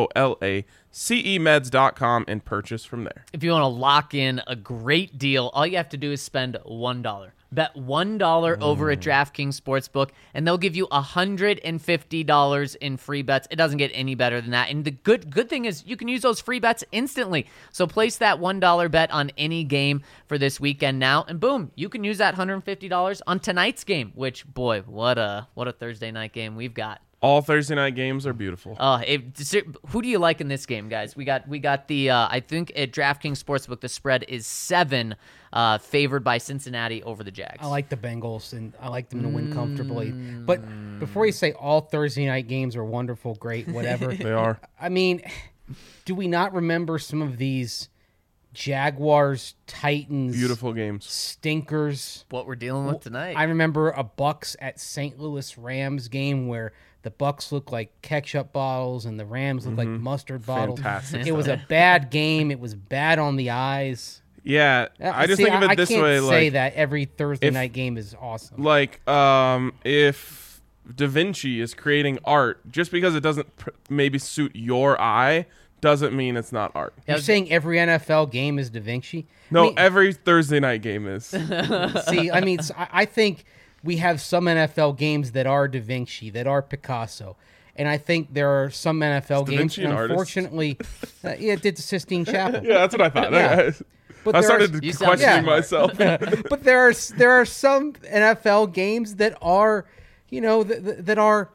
SOLACEmeds.com and purchase from there. If you want to lock in a great deal, all you have to do is spend $1. Bet $1 over at DraftKings Sportsbook, and they'll give you $150 in free bets. It doesn't get any better than that. And the good thing is you can use those free bets instantly. So place that $1 bet on any game for this weekend now, and boom, you can use that $150 on tonight's game. Which, boy, what a Thursday night game we've got. All Thursday night games are beautiful. Who do you like in this game, guys? We got the I think at DraftKings Sportsbook the spread is 7, favored by Cincinnati over the Jags. I like the Bengals, and I like them to win comfortably. But before you say all Thursday night games are wonderful, great, whatever, They are. I mean, do we not remember some of these Jaguars, Titans, Beautiful games. stinkers? What we're dealing with tonight. I remember a Bucks at St. Louis Rams game where the Bucks look like ketchup bottles and the Rams look like mustard bottles. Fantastic It was a bad game. It was bad on the eyes. Yeah, I just think of it this can't way. say Like, that every Thursday if- night game is awesome. if Da Vinci is creating art, just because it doesn't maybe suit your eye, doesn't mean it's not art. You're saying every NFL game is Da Vinci? No, I mean, every Thursday night game is. see, I mean, I think we have some NFL games that are Da Vinci, that are Picasso, And I think there are some NFL Da games, Vinci an artist? unfortunately, it did the Sistine Chapel. Yeah, that's what I thought. Yeah. But I there are- started You sound questioning smart. myself. But there are some NFL games that are, that are,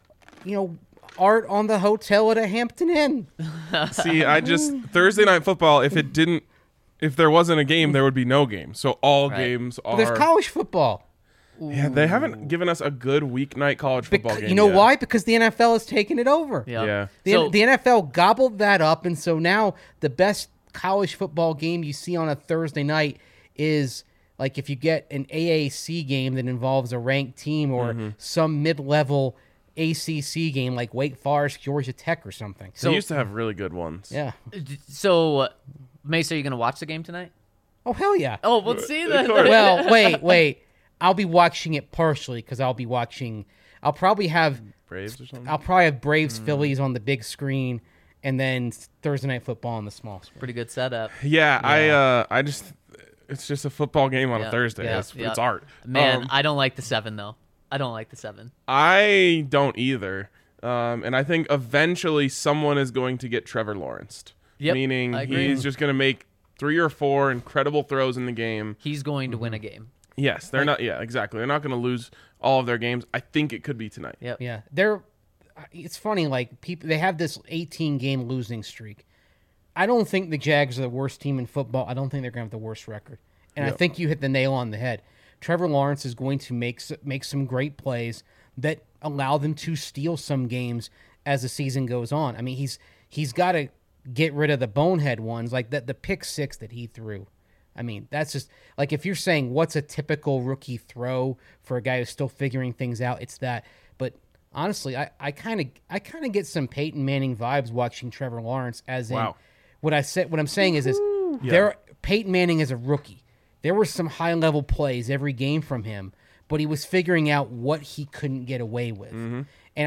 art on the hotel at a Hampton Inn. See, Thursday Night Football, if there wasn't a game, there would be no game. So all Right. games are. There's college football. Yeah, they haven't given us a good weeknight college football game. You know yet. why? Because the NFL has taken it over. Yeah. Yeah. The NFL gobbled that up, and so now the best college football game you see on a Thursday night is like if you get an AAC game that involves a ranked team or some mid-level ACC game like Wake Forest, Georgia Tech, or something. They used to have really good ones. Yeah. So, Mace, are you going to watch the game tonight? Oh, hell yeah. Oh, we'll see then. course. Well, wait. I'll be watching it partially because I'll probably have Braves or something. I'll probably have Braves Phillies on the big screen and then Thursday Night Football on the small screen. Pretty good setup. Yeah, it's just a football game on Yeah, a Thursday. yeah, It's yeah. art. Man, I don't like the 7, though. I don't like the 7. I don't either. And I think eventually someone is going to get Trevor Lawrence. Yep, Meaning I agree. he's just going to make 3 or 4 incredible throws in the game. He's going to win a game. Yes, they're not. Yeah, exactly. They're not going to lose all of their games. I think it could be tonight. Yep. Yeah, it's funny. Like they have this 18-game losing streak. I don't think the Jags are the worst team in football. I don't think they're going to have the worst record. And I think you hit the nail on the head. Trevor Lawrence is going to make some great plays that allow them to steal some games as the season goes on. I mean, he's got to get rid of the bonehead ones, like the pick 6 that he threw. I mean, that's just like if you're saying what's a typical rookie throw for a guy who's still figuring things out, it's that. But honestly, I kind of get some Peyton Manning vibes watching Trevor Lawrence. As in, Wow. what I'm saying is Peyton Manning is a rookie. There were some high level plays every game from him, but he was figuring out what he couldn't get away with. And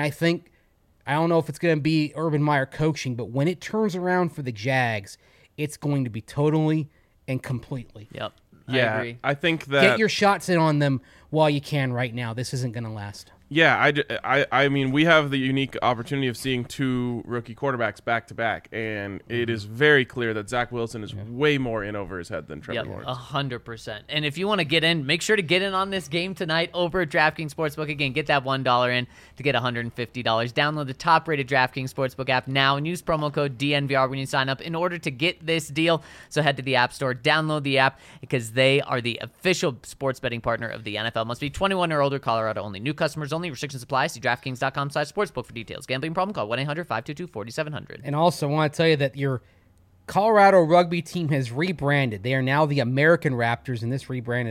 I don't know if it's going to be Urban Meyer coaching, but when it turns around for the Jags, it's going to be totally and completely. Yep. Yeah, I agree. I think that. Get your shots in on them while you can right now. This isn't going to last. Yeah, I mean, we have the unique opportunity of seeing 2 rookie quarterbacks back to back, and it is very clear that Zach Wilson is way more in over his head than Trevor Yep, Lawrence. 100%. And if you want to get in, make sure to get in on this game tonight over at DraftKings Sportsbook. Again, get that $1 in to get $150. Download the top-rated DraftKings Sportsbook app now and use promo code DNVR when you sign up in order to get this deal. So head to the App Store, download the app because they are the official sports betting partner of the NFL. Must be 21 or older, Colorado only. New customers only. Restrictions apply. See DraftKings.com/sportsbook for details. Gambling problem? Call 1-800-522-4700. And also, I want to tell you that your Colorado rugby team has rebranded. They are now the American Raptors, and this rebrand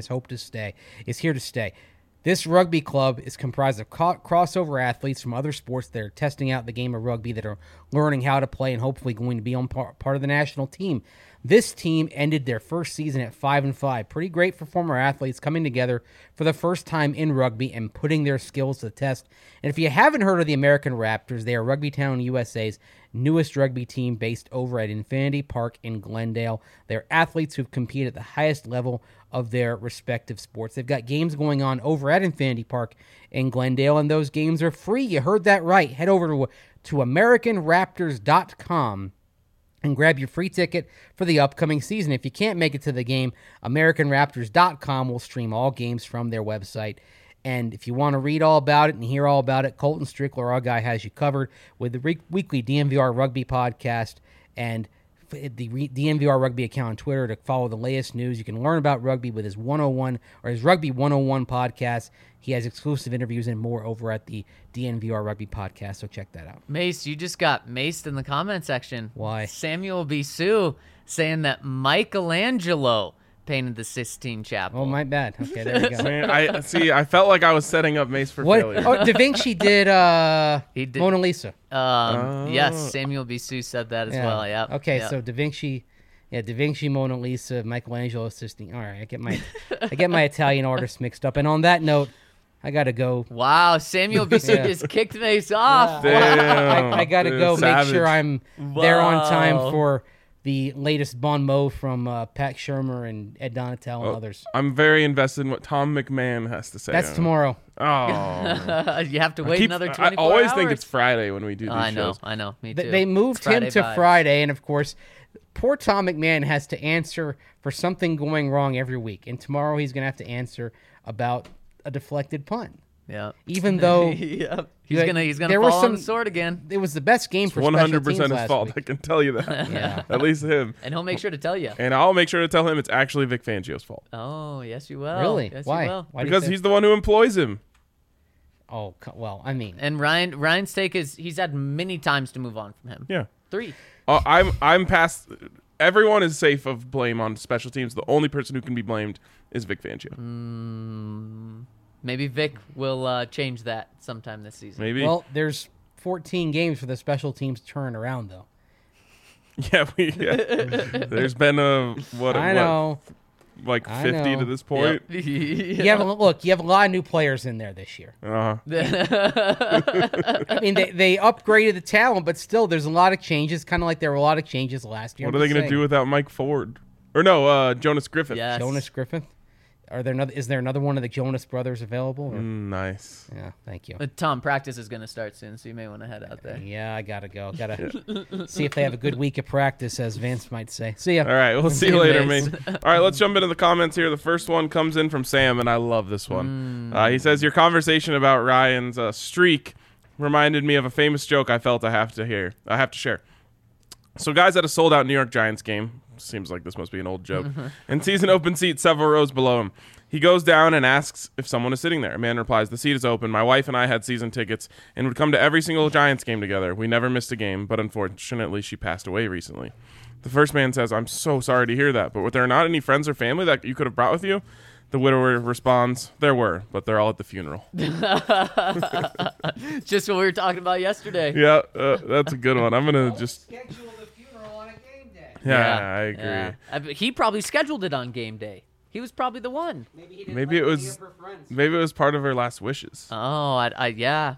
is here to stay. This rugby club is comprised of crossover athletes from other sports that are testing out the game of rugby, that are learning how to play and hopefully going to be on part of the national team. This team ended their first season at 5-5. Pretty great for former athletes coming together for the first time in rugby and putting their skills to the test. And if you haven't heard of the American Raptors, they are Rugby Town USA's newest rugby team based over at Infinity Park in Glendale. They're athletes who've competed at the highest level of their respective sports. They've got games going on over at Infinity Park in Glendale, and those games are free. You heard that right. Head over to AmericanRaptors.com and grab your free ticket for the upcoming season. If you can't make it to the game, AmericanRaptors.com will stream all games from their website. And if you want to read all about it and hear all about it, Colton Strickler, our guy, has you covered with the weekly DNVR Rugby podcast and the DNVR Rugby account on Twitter to follow the latest news. You can learn about rugby with his his Rugby 101 podcast. He has exclusive interviews and more over at the DNVR Rugby podcast, so check that out. Mace, you just got maced in the comment section. Why? Samuel B. Sue saying that Michelangelo painted the Sistine Chapel. Oh, my bad. Okay, there we go. Man, I felt like I was setting up Mace for What? failure. Oh, Da Vinci did, He did- Mona Lisa. Yes, Samuel B. Sue said that as well. Yeah. Okay, so Da Vinci, Mona Lisa, Michelangelo, Sistine. All right, I get my Italian artists mixed up. And on that note, I gotta go. Wow, Samuel B. Sue just kicked Mace off. Damn, I gotta dude, go savage. make sure I'm there on time Wow. for the latest Bon Mot from Pat Shermer and Ed Donatel and others. I'm very invested in what Tom McMahon has to say. That's tomorrow. Oh, You have to wait another 24 I always hours. think it's Friday when we do these shows. I know. Me too. They moved him Friday to vibes. Friday, and of course, poor Tom McMahon has to answer for something going wrong every week. And tomorrow he's going to have to answer about a deflected punt. Yeah. Even though Yep. He's Like, gonna there fall was on some- the sword again, it was the best game for 100% special teams his last fault. I week. can tell you that. Yeah. At least him. and he'll make sure to tell you. And I'll make sure to tell him it's actually Vic Fangio's fault Oh, yes, you will. Really? Yes, Why? You will. Why do you because say- he's the one who employs him. Oh, well, I mean, And Ryan's take is he's had many times to move on from him. Yeah. 3. I'm past. Everyone is safe of blame on special teams. The only person who can be blamed is Vic Fangio. Maybe Vic will change that sometime this season. Maybe. well, there's 14 games for the special teams to turn around, though. yeah. There's been I know. like I 50 to know. this point. You have a lot of new players in there this year. Uh-huh. I mean, they upgraded the talent, but still, there's a lot of changes. Kind of like there were a lot of changes last year. What are they going to do without Mike Ford? Or no, Jonas Griffith. Yes. Jonas Griffith? Is there another one of the Jonas brothers available? Or- Nice. Yeah, thank you. Tom, practice is going to start soon, so you may want to head out there. Yeah, I gotta go. Gotta see if they have a good week of practice, as Vince might say. See ya. All right, we'll see you later, Anyways. man. All right, let's jump into the comments here. The first one comes in from Sam, and I love this one. He says, your conversation about Ryan's streak reminded me of a famous joke I felt I have to share. So guys at a sold-out New York Giants game, seems like this must be an old joke, and sees an open seat several rows below him. He goes down and asks if someone is sitting there. A man replies, the seat is open. My wife and I had season tickets and would come to every single Giants game together. We never missed a game, but unfortunately she passed away recently. The first man says, I'm so sorry to hear that, but were there not any friends or family that you could have brought with you? The widower responds, there were, but they're all at the funeral. Just what we were talking about yesterday. Yeah, that's a good one. I'm going to just... Schedule the funeral on a game day. Yeah, I agree. Yeah. He probably scheduled it on game day. He was probably the one. Maybe he didn't Maybe it was maybe it was part of her last wishes. Oh, yeah.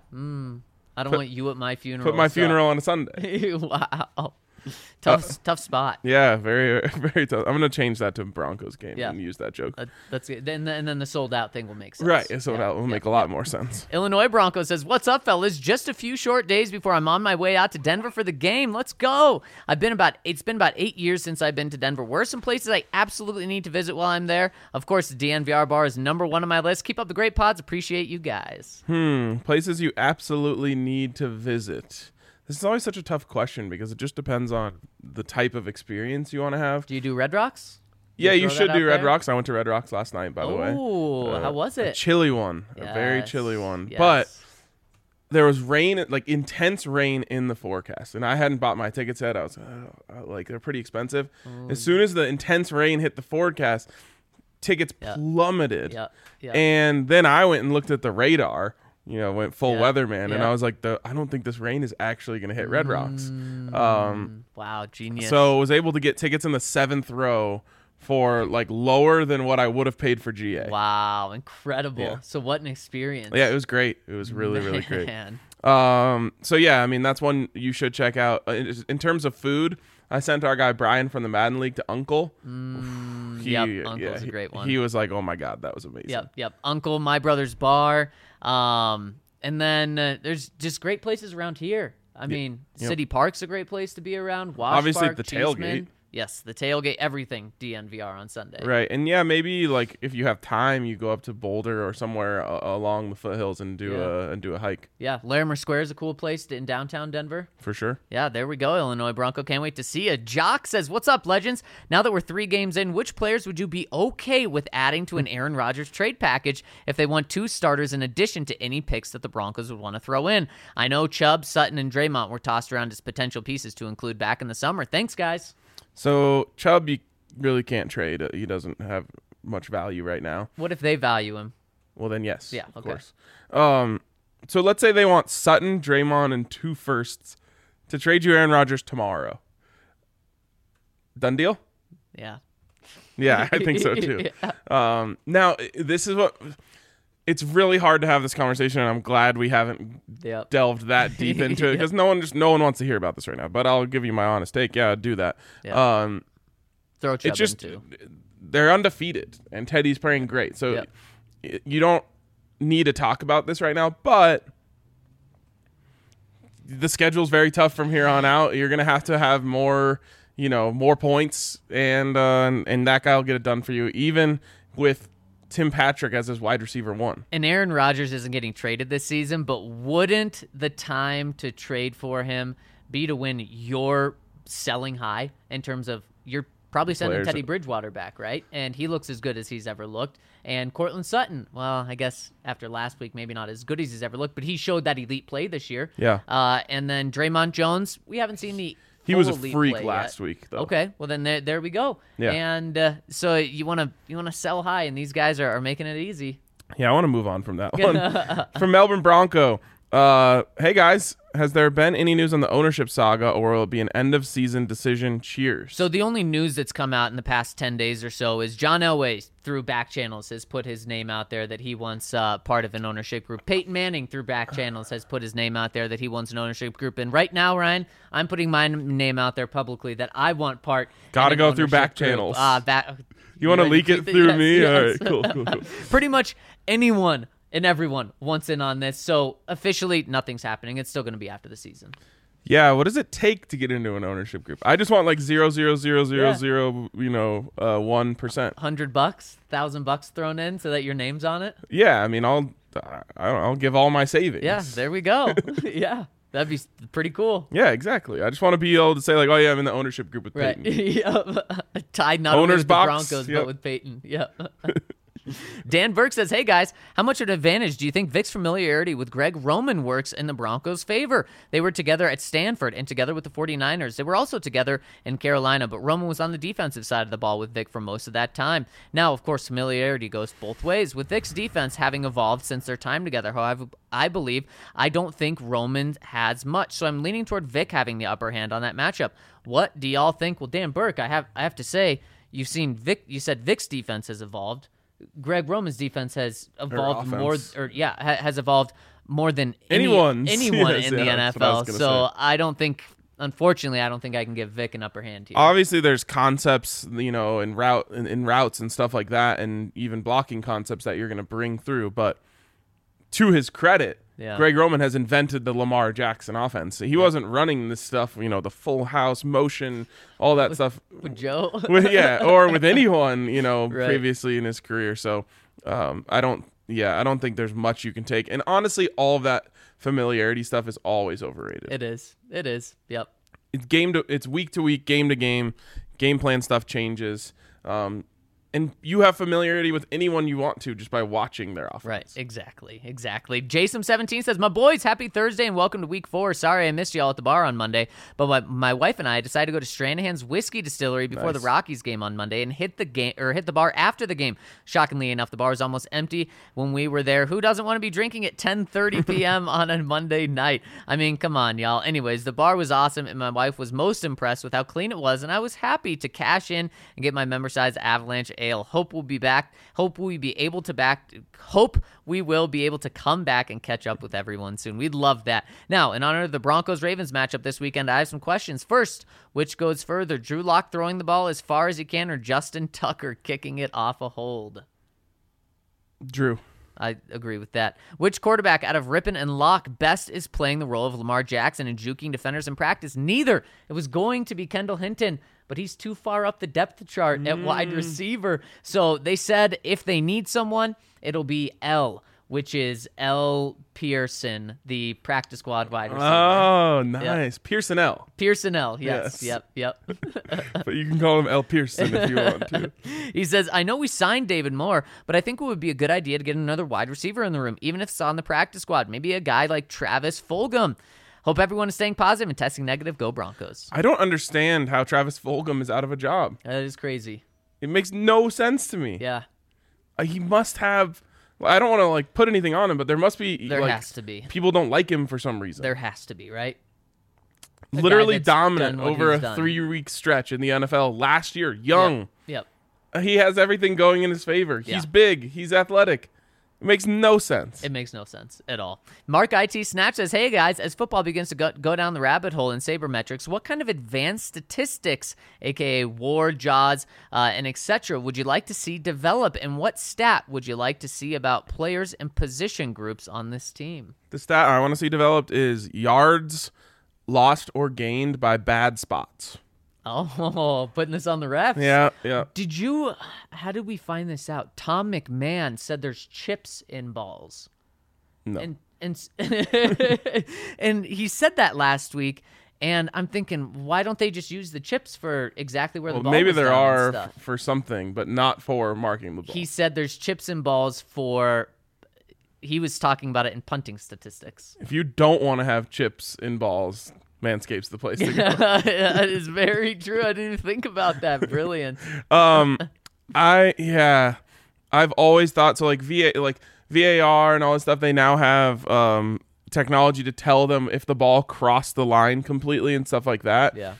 I don't want you at my funeral. Put my so- funeral on a Sunday. Wow. Tough spot. Yeah, very very tough. I'm gonna change that to Broncos game Yeah. and use that joke. That's it. And then the sold out thing will make sense. Right, so Yeah, that will yeah. make a lot more sense. Illinois Bronco says, what's up, fellas? Just a few short days before I'm on my way out to Denver for the game. Let's go. It's been about 8 years since I've been to Denver. Where are some places I absolutely need to visit while I'm there? Of course, the DNVR bar is number one on my list. Keep up the great pods. Appreciate you guys. Places you absolutely need to visit. This is always such a tough question because it just depends on the type of experience you want to have. Do you do Red Rocks? Yeah, you throw should that do out Red there? Rocks. I went to Red Rocks last night, by the way. Oh, how was A it? chilly one. A very Yes, chilly one. yes. But there was rain, like intense rain in the forecast. And I hadn't bought my tickets yet. I was like, they're pretty expensive. As soon as the intense rain hit the forecast, tickets plummeted. Yeah, yeah. And then I went and looked at the radar, went full Yeah, weatherman. And yeah. I was like, I don't think this rain is actually going to hit Red Rocks. Wow, genius. So I was able to get tickets in the 7th row for like lower than what I would have paid for GA. Wow, incredible. Yeah. So what an experience. Yeah, it was great. It was really, really great. Man. So yeah, I mean, that's one you should check out. In terms of food, I sent our guy Brian from the Madden League to Uncle. Yep, Uncle's a great one. He was like, "Oh my god, that was amazing." Yep. Uncle, My Brother's Bar. And then there's just great places around here. I mean, City Park's a great place to be around. Wash Obviously, Park, the Cheeseman. tailgate. Yes, the tailgate, everything DNVR on Sunday. Right, and yeah, maybe like if you have time, you go up to Boulder or somewhere along the foothills and do a hike Yeah, Larimer Square is a cool place in downtown Denver. for sure. Yeah, there we go, Illinois Bronco. Can't wait to see you. Jock says, what's up, legends? Now that we're 3 games in, which players would you be okay with adding to an Aaron Rodgers trade package if they want 2 starters in addition to any picks that the Broncos would want to throw in? I know Chubb, Sutton, and Draymond were tossed around as potential pieces to include back in the summer. Thanks, guys. So Chubb, you really can't trade. He doesn't have much value right now. What if they value him? Well, then yes, Yeah, of okay. course. So let's say they want Sutton, Draymond, and 2 firsts to trade you Aaron Rodgers tomorrow. Done deal? Yeah. Yeah, I think so too. Now, this is what... It's really hard to have this conversation, and I'm glad we haven't Yep. delved that deep into it because no one wants to hear about this right now. But I'll give you my honest take. Yeah, I'd do that. Yeah. Throw Chubb It's just in too. they're undefeated, and Teddy's playing great. So Yep. you don't need to talk about this right now, but the schedule's very tough from here on out. You're going to have more, more points, and that guy will get it done for you, even with Tim Patrick as his wide receiver 1. And Aaron Rodgers isn't getting traded this season, but wouldn't the time to trade for him be to when you're selling high in terms of you're probably sending Players. Teddy Bridgewater back, right? And he looks as good as he's ever looked. And Cortland Sutton, well, I guess after last week, maybe not as good as he's ever looked, but he showed that elite play this year. Yeah. And then Draymond Jones, we haven't seen the He was a full elite freak play last yet. week, though. Okay, well then there we go. Yeah. And so you want to sell high, and these guys are making it easy. Yeah, I want to move on from that one. From Melbourne Bronco. Hey, guys. Has there been any news on the ownership saga, or will it be an end-of-season decision? Cheers. So the only news that's come out in the past 10 days or so is John Elway, through back channels, has put his name out there that he wants part of an ownership group. Peyton Manning, through back channels, has put his name out there that he wants an ownership group. And right now, Ryan, I'm putting my name out there publicly that I want part. Gotta in an go through ownership back group. channels. You ready want to leak keep it through Yes, me? yes. All right, cool. Pretty much anyone and everyone wants in on this. So officially, nothing's happening. It's still going to be after the season. Yeah, what does it take to get into an ownership group? I just want like 0.00000, 1%. $100, $1,000 thrown in so that your name's on it. Yeah, I mean, I'll give all my savings. Yeah, there we go. Yeah, that'd be pretty cool. Yeah, exactly. I just want to be able to say like, oh yeah, I'm in the ownership group with Right. Peyton. Yep. Tied not only Owner's with box, the Broncos, yep. but with Peyton. Yep. Dan Burke says, hey guys, how much of an advantage do you think Vic's familiarity with Greg Roman works in the Broncos' favor? They were together at Stanford and together with the 49ers. They were also together in Carolina, but Roman was on the defensive side of the ball with Vic for most of that time. Now, of course, familiarity goes both ways, with Vic's defense having evolved since their time together. However, I don't think Roman has much, so I'm leaning toward Vic having the upper hand on that matchup. What do y'all think? Well, Dan Burke, I have to say, you've seen Vic. You said Vic's defense has evolved. Greg Roman's defense has evolved has evolved more than anyone Yes, in the that's what I NFL. was gonna So say. I don't think, unfortunately, I can give Vic an upper hand here. Obviously, there's concepts, in routes and stuff like that, and even blocking concepts that you're going to bring through. But to his credit, Yeah. Greg Roman has invented the Lamar Jackson offense. He wasn't running this stuff, the full house motion, all that stuff. With Joe? Or with anyone, Right. previously in his career. So I don't think there's much you can take. And honestly, all of that familiarity stuff is always overrated. It is. Yep. It's week to week, game to game plan stuff changes. And you have familiarity with anyone you want to just by watching their offense. Right, exactly. Jason17 says, my boys, happy Thursday and welcome to week 4. Sorry I missed y'all at the bar on Monday, but my wife and I decided to go to Stranahan's Whiskey Distillery before the Rockies game on Monday and hit the bar after the game. Shockingly enough, the bar was almost empty when we were there. Who doesn't want to be drinking at 10:30 p.m. on a Monday night? I mean, come on, y'all. Anyways, the bar was awesome, and my wife was most impressed with how clean it was, and I was happy to cash in and get my member-size Avalanche Ale. Hope we will be able to come back and catch up with everyone soon. We'd love that. Now, in honor of the Broncos-Ravens matchup this weekend, I have some questions. First, which goes further, Drew Lock throwing the ball as far as he can or Justin Tucker kicking it off a hold? Drew. I agree with that. Which quarterback out of Rippon and Locke best is playing the role of Lamar Jackson and juking defenders in practice? Neither. It was going to be Kendall Hinton, but he's too far up the depth chart at wide receiver. So they said if they need someone, it'll be L, which is L. Pearson, the practice squad wide receiver. Oh, nice. Yep. Pearson L. Pearson L, yes. Yep. But you can call him L. Pearson if you want to. He says, I know we signed David Moore, but I think it would be a good idea to get another wide receiver in the room, even if it's on the practice squad. Maybe a guy like Travis Fulgham. Hope everyone is staying positive and testing negative. Go Broncos. I don't understand how Travis Fulgham is out of a job. That is crazy. It makes no sense to me. Yeah. He must have... I don't want to put anything on him, but there must be... There has to be. People don't like him for some reason. There has to be, right? Literally dominant over a done. 3-week stretch in the NFL last year. Young. Yep. He has everything going in his favor. Yeah. He's big. He's athletic. It makes no sense. It makes no sense at all. Mark IT Snatch says, hey guys, as football begins to go down the rabbit hole in sabermetrics, what kind of advanced statistics, aka WAR, JAWS, and etc., would you like to see develop? And what stat would you like to see about players and position groups on this team? The stat I want to see developed is yards lost or gained by bad spots. Oh, putting this on the refs. Yeah. How did we find this out? Tom McMahon said there's chips in balls. No. And and he said that last week, and I'm thinking, why don't they just use the chips for exactly where the ball maybe was there down and are stuff? for something, but not for marking the ball. He said there's chips and balls for. He was talking about it in punting statistics. If you don't want to have chips in balls, Manscaped's the place to go. That is very true. I didn't even think about that. Brilliant. I've always thought so. Like VAR and all this stuff, they now have technology to tell them if the ball crossed the line completely and stuff like that. Yeah.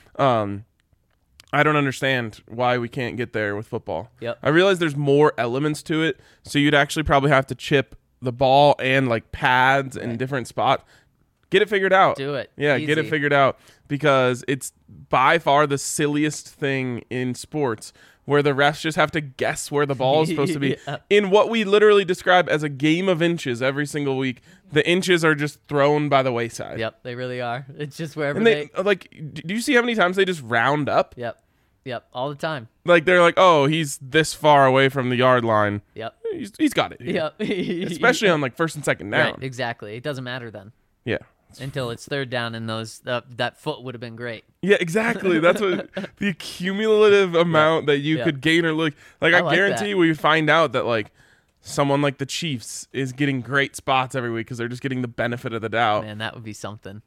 I don't understand why we can't get there with football. Yep. I realize there's more elements to it, so you'd actually probably have to chip the ball and like pads in different spots. Get it figured out. Do it. Yeah, Easy. get it figured out, because it's by far the silliest thing in sports where the refs just have to guess where the ball is supposed to be. Yeah. In what we literally describe as a game of inches every single week, the inches are just thrown by the wayside. Yep, they really are. It's just wherever And they do you see how many times they just round up? Yep, all the time. Like they're like, oh, he's this far away from the yard line. Yep. He's got it. Here. Yep. Especially on like first and second down. Right, exactly. It doesn't matter then. Yeah. Until it's third down, and that foot would have been great. Yeah, exactly. That's what the cumulative amount that you could gain or look. Like I like guarantee that. we find out that like someone like the Chiefs is getting great spots every week because they're just getting the benefit of the doubt. Man, that would be something.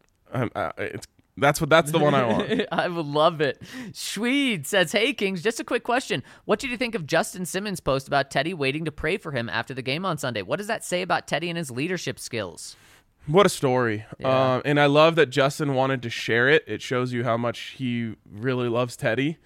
That's the one I want. I would love it. Schweed says, hey, Kings, just a quick question. What did you think of Justin Simmons' post about Teddy waiting to pray for him after the game on Sunday? What does that say about Teddy and his leadership skills? What a story. Yeah. And I love that Justin wanted to share it. It shows you how much he really loves Teddy.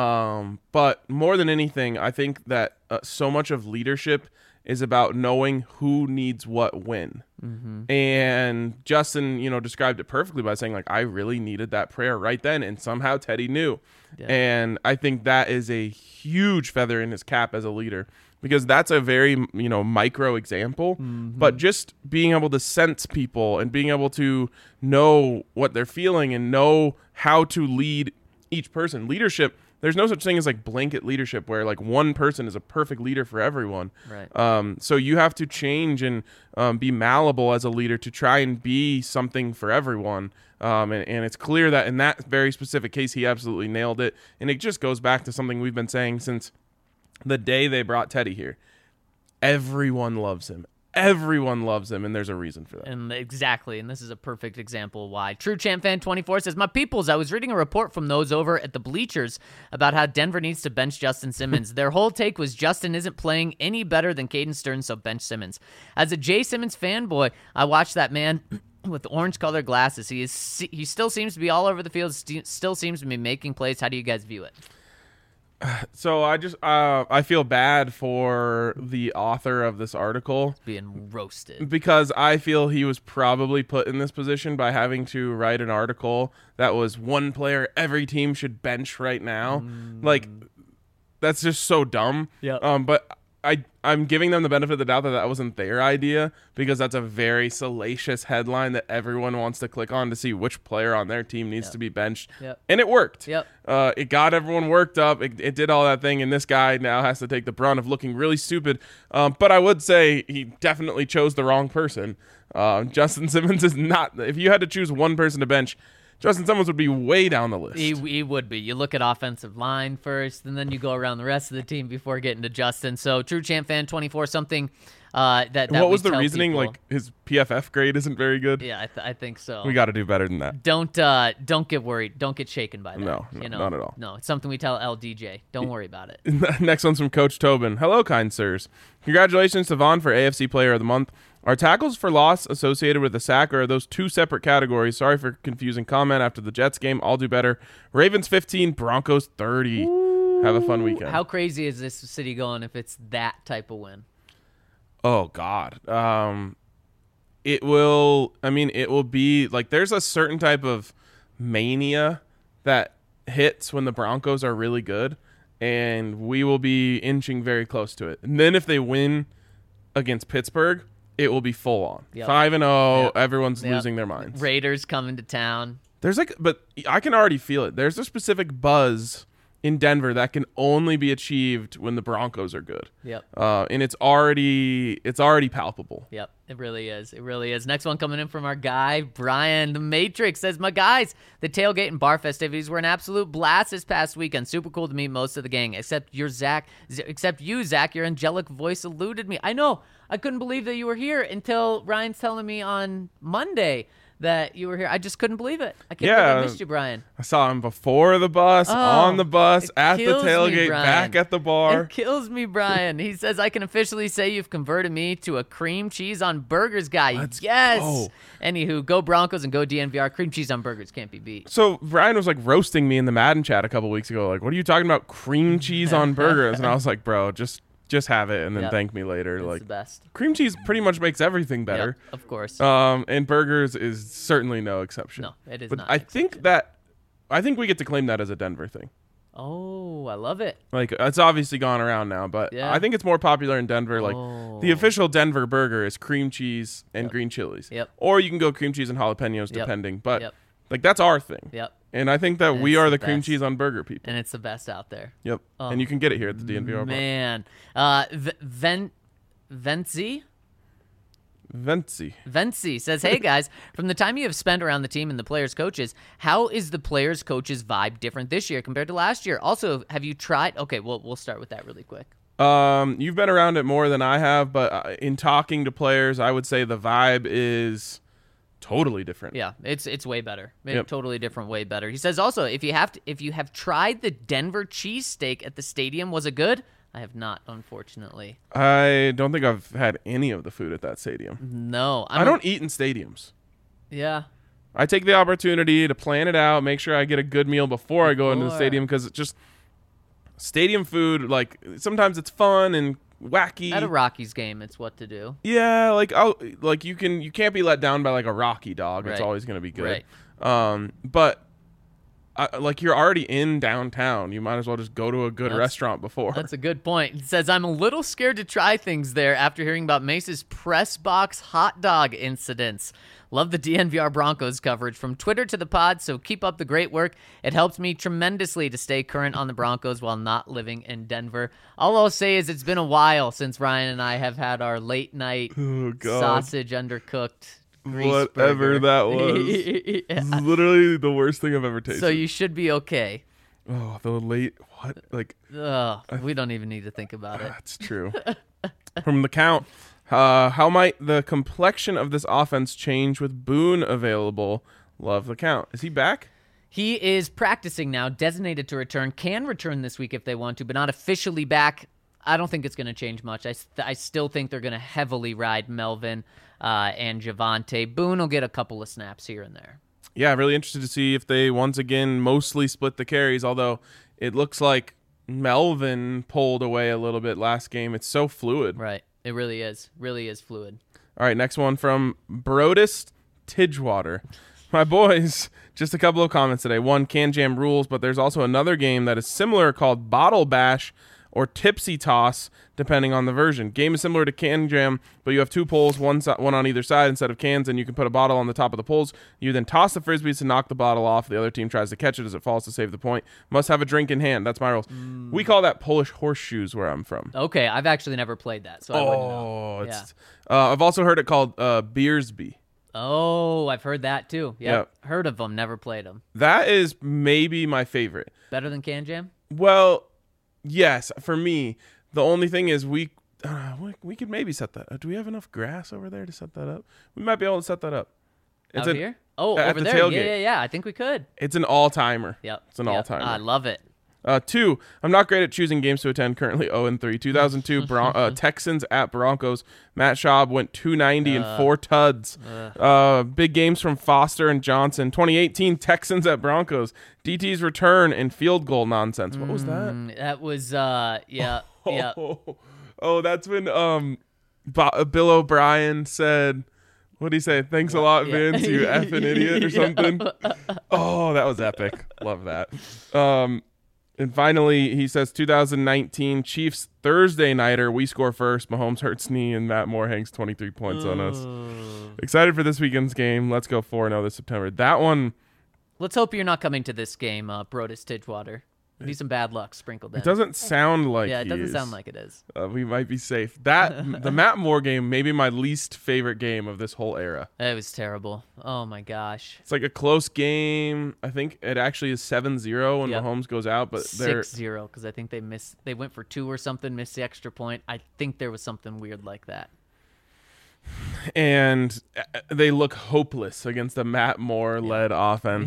But more than anything, I think that so much of leadership is about knowing who needs what when. Mm-hmm. And Justin, described it perfectly by saying, like, I really needed that prayer right then. And somehow Teddy knew. Yeah. And I think that is a huge feather in his cap as a leader, because that's a very, micro example. Mm-hmm. But just being able to sense people and being able to know what they're feeling and know how to lead each person. Leadership, there's no such thing as like blanket leadership where like one person is a perfect leader for everyone. Right. So you have to change and be malleable as a leader to try and be something for everyone. And it's clear that in that very specific case, he absolutely nailed it. And it just goes back to something we've been saying since the day they brought Teddy here. Everyone loves him. Everyone loves him, and there's a reason for that. And exactly, and this is a perfect example why. True Champ Fan 24 says, my peoples, I was reading a report from those over at the bleachers about how Denver needs to bench Justin Simmons. Their whole take was Justin isn't playing any better than Caden Stearns, so bench Simmons. As a Jay Simmons fanboy, I watched that man with orange-colored glasses. He still seems to be all over the field, still seems to be making plays. How do you guys view it? So I feel bad for the author of this article being roasted, because I feel he was probably put in this position by having to write an article that was one player every team should bench right now. Like, that's just so dumb. Yeah. But I'm giving them the benefit of the doubt that wasn't their idea, because that's a very salacious headline that everyone wants to click on to see which player on their team needs to be benched. Yep. And it worked. Yep. It got everyone worked up. It did all that thing, and this guy now has to take the brunt of looking really stupid. But I would say he definitely chose the wrong person. Justin Simmons is not. If you had to choose one person to bench, Justin Simmons would be way down the list. He would be. You look at offensive line first, and then you go around the rest of the team before getting to Justin. So, True Champ Fan 24, something that what was we the tell reaning? people. Like, his PFF grade isn't very good? Yeah, I think so. We got to do better than that. Don't get worried. Don't get shaken by that. No, not at all. No, it's something we tell LDJ. Don't worry about it. Next one's from Coach Tobin. Hello, kind sirs. Congratulations to Vaughn for AFC Player of the Month. Are tackles for loss associated with a sack, or are those two separate categories? Sorry for confusing comment after the Jets game. I'll do better. Ravens 15, Broncos 30. Have a fun weekend. How crazy is this city going if it's that type of win? Oh God. It will. I mean, it will be like there's a certain type of mania that hits when the Broncos are really good, and we will be inching very close to it. And then if they win against Pittsburgh, it will be full on 5-0. Yep. Everyone's Yep. losing their minds. Raiders coming to town. There's but I can already feel it. There's a specific buzz in Denver that can only be achieved when the Broncos are good. Yep. And it's already palpable. Yep, it really is. It really is. Next one coming in from our guy, Brian the Matrix, says, my guys, the tailgate and bar festivities were an absolute blast this past weekend. Super cool to meet most of the gang, except you, Zach. Your angelic voice eluded me. I know. I couldn't believe that you were here until Ryan's telling me on Monday that you were here. I just couldn't believe it. I can't believe I missed you, Brian. I saw him before the bus, on the bus, at the tailgate, back at the bar. It kills me, Brian. He says, I can officially say you've converted me to a cream cheese on burgers guy. Yes. Go. Anywho, go Broncos and go DNVR. Cream cheese on burgers can't be beat. So Brian was like roasting me in the Madden chat a couple weeks ago. Like, what are you talking about? Cream cheese on burgers? And I was like, bro, just have it and then thank me later. It's like the best. Cream cheese pretty much makes everything better. Yep, of course. And burgers is certainly no exception. No, it is but not. I think we get to claim that as a Denver thing. Oh, I love it. Like it's obviously gone around now, but I think it's more popular in Denver. Like the official Denver burger is cream cheese and green chilies. Yep. Or you can go cream cheese and jalapenos depending. But Yep. like that's our thing. Yep. And I think that we it's are the the cream best. cheese on burger people. And it's the best out there. Yep. And you can get it here at the DNVR bar. Man. Vency says, hey guys, from the time you have spent around the team and the players' coaches, how is the players' coaches' vibe different this year compared to last year? Also, have you tried? Okay, we'll start with that really quick. You've been around it more than I have, but in talking to players, I would say the vibe is totally different. Yeah, it's way better. Yep. Totally different, way better. He says also, if you have tried the Denver cheesesteak at the stadium, was it good? I have not, unfortunately. I don't think I've had any of the food at that stadium. No. I don't eat in stadiums. Yeah. I take the opportunity to plan it out, make sure I get a good meal before I go into the stadium, because it's just stadium food, like sometimes it's fun and wacky. At a Rockies game, it's what to do. Yeah, you can't be let down by like a Rocky dog. It's always going to be good. Right. But like you're already in downtown, you might as well just go to a good restaurant before. That's a good point. It says, I'm a little scared to try things there after hearing about Mace's press box hot dog incidents. Love the DNVR Broncos coverage from Twitter to the pod, so keep up the great work. It helps me tremendously to stay current on the Broncos while not living in Denver. All I'll say is it's been a while since Ryan and I have had our late night sausage undercooked whatever that was. It's literally the worst thing I've ever tasted. So you should be okay. Oh, the late what? Like we don't even need to think about it. That's true. From the count, how might the complexion of this offense change with Boone available? Love the count. Is he back? He is practicing now, designated to return. Can return this week if they want to, but not officially back. I don't think it's going to change much. I still think they're going to heavily ride Melvin and Javonte. Boone will get a couple of snaps here and there. Yeah, I'm really interested to see if they once again mostly split the carries, although it looks like Melvin pulled away a little bit last game. It's so fluid. Right. It really is. Really is fluid. All right, next one from Brodus Tidgewater. My boys, just a couple of comments today. One, Can Jam rules, but there's also another game that is similar called Bottle Bash or Tipsy Toss, depending on the version. Game is similar to Can Jam, but you have two poles, one on either side instead of cans, and you can put a bottle on the top of the poles. You then toss the frisbees to knock the bottle off. The other team tries to catch it as it falls to save the point. Must have a drink in hand. That's my rules. We call that Polish horseshoes where I'm from. Okay, I've actually never played that, so I wouldn't know. I've also heard it called Beersby. Oh, I've heard that too. Yep. Heard of them, never played them. That is maybe my favorite. Better than Can Jam? Well, yes, for me. The only thing is we could maybe set that up. Do we have enough grass over there to set that up? We might be able to set that up. Out here? Oh, at over the there. tailgate. Yeah. I think we could. It's an all-timer. Yep. It's an all-timer. I love it. 2, I'm not great at choosing games to attend. Currently 0-3. 2002 Texans at Broncos. Matt Schaub went 290 and 4 tuds. Big games from Foster and Johnson. 2018 Texans at Broncos. DT's return and field goal nonsense. What was that? That was yeah. Oh, that's when Bill O'Brien said, what did he say? Thanks a lot, Vince, you effing idiot or something. Oh, that was epic. Love that. And finally, he says 2019 Chiefs Thursday nighter. We score first. Mahomes hurts knee, and Matt Moore hangs 23 points on us. Excited for this weekend's game. Let's go 4-0 this September. That one. Let's hope you're not coming to this game, Brodus Tidgewater. Be some bad luck sprinkled in. It doesn't sound like it doesn't sound like it is. We might be safe. The Matt Moore game, maybe my least favorite game of this whole era. It was terrible. Oh my gosh. It's like a close game. I think it actually is 7-0 when Mahomes goes out, but they're 6-0 because I think they went for 2 or something, missed the extra point. I think there was something weird like that. And they look hopeless against the Matt Moore led offense.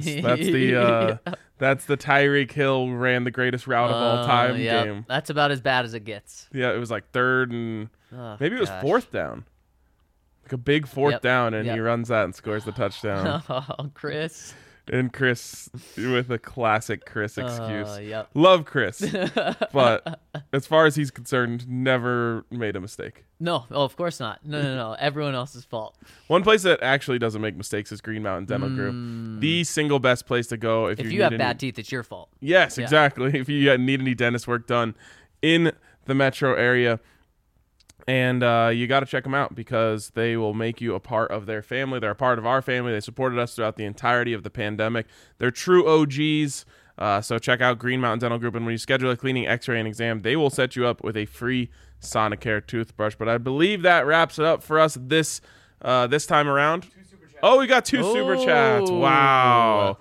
That's the Tyreek Hill ran the greatest route of all time game. That's about as bad as it gets. Yeah, it was like third and maybe it was fourth down. Like a big fourth down, and he runs that and scores the touchdown. Oh, Chris. And Chris with a classic Chris excuse. Love Chris. But as far as he's concerned, never made a mistake. No, of course not. No. Everyone else's fault. One place that actually doesn't make mistakes is Green Mountain Dental Group. The single best place to go if you have bad teeth, it's your fault. Yes, exactly. If you need any dentist work done in the metro area. And you got to check them out because they will make you a part of their family. They're a part of our family. They supported us throughout the entirety of the pandemic. They're true OGs. So check out Green Mountain Dental Group. And when you schedule a cleaning, x-ray, and exam, they will set you up with a free Sonicare toothbrush. But I believe that wraps it up for us this time around. Oh, we got 2 super chats. Wow.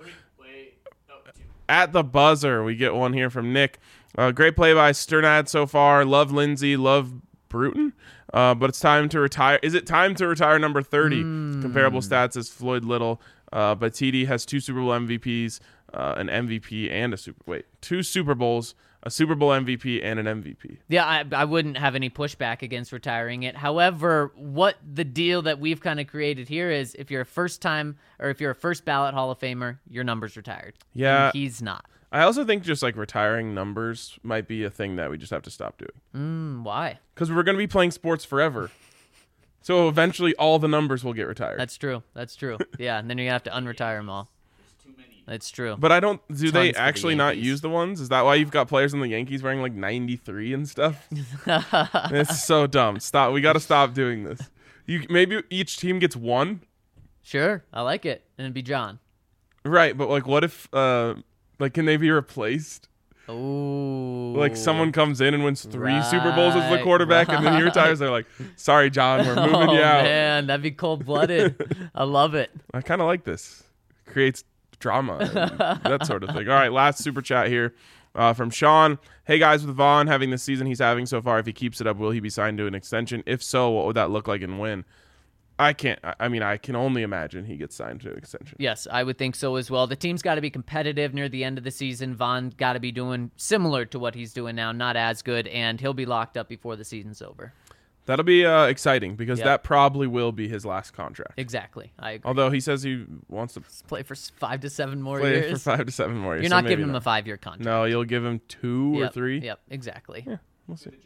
At the buzzer, we get one here from Nick. Great play by Sternad so far. Love Lindsay. Love Bruton, but it's time to retire. Is it time to retire number 30? Comparable stats as Floyd Little, but TD has 2 Super Bowl MVPs, an MVP and a 2 Super Bowls, a Super Bowl MVP and an MVP. Yeah, I wouldn't have any pushback against retiring it. However, what the deal that we've kind of created here is if you're a first ballot Hall of Famer, your number's retired. Yeah, and he's not. I also think just like retiring numbers might be a thing that we just have to stop doing. Why? Because we're going to be playing sports forever. So eventually all the numbers will get retired. That's true. Yeah, and then you have to unretire them all. There's too many. That's true. But do they actually not use the ones? Is that why you've got players in the Yankees wearing like 93 and stuff? It's so dumb. Stop. We got to stop doing this. Maybe each team gets 1. Sure. I like it. And it'd be John. Right. But like what if... can they be replaced? Oh, like someone comes in and wins 3 Super Bowls as the quarterback, and then he retires. They're like, "Sorry, John, we're moving you out." Man, that'd be cold-blooded. I love it. I kind of like this. Creates drama, and that sort of thing. All right, last super chat here from Sean. Hey guys, with Vaughn having the season he's having so far, if he keeps it up, will he be signed to an extension? If so, what would that look like and when? I can only imagine he gets signed to an extension. Yes, I would think so as well. The team's got to be competitive near the end of the season. Vaughn got to be doing similar to what he's doing now, not as good, and he'll be locked up before the season's over. That'll be exciting because that probably will be his last contract. Exactly, I agree. Although he says he wants to play for 5 to 7 more years. For 5 to 7 more years. You're not giving him a 5-year contract. No, you'll give him 2 or 3. Yep, exactly. Yeah, we'll see.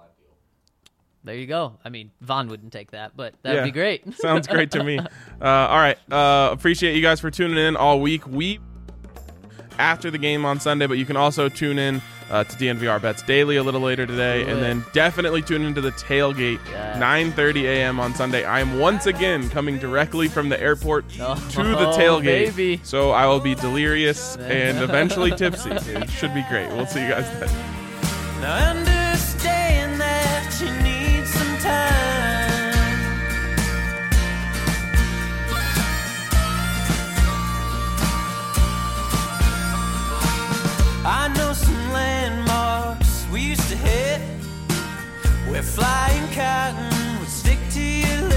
There you go. I mean, Vaughn wouldn't take that, but that'd be great. Sounds great to me. All right. Appreciate you guys for tuning in all week. After the game on Sunday, but you can also tune in to DNVR Bets Daily a little later today, and then definitely tune into the tailgate, 9:30 a.m. on Sunday. I am once again coming directly from the airport to the tailgate, baby. So I will be delirious and eventually tipsy. It should be great. We'll see you guys then. Now understand that you need some time. I know some landmarks we used to hit where flying cotton would stick to you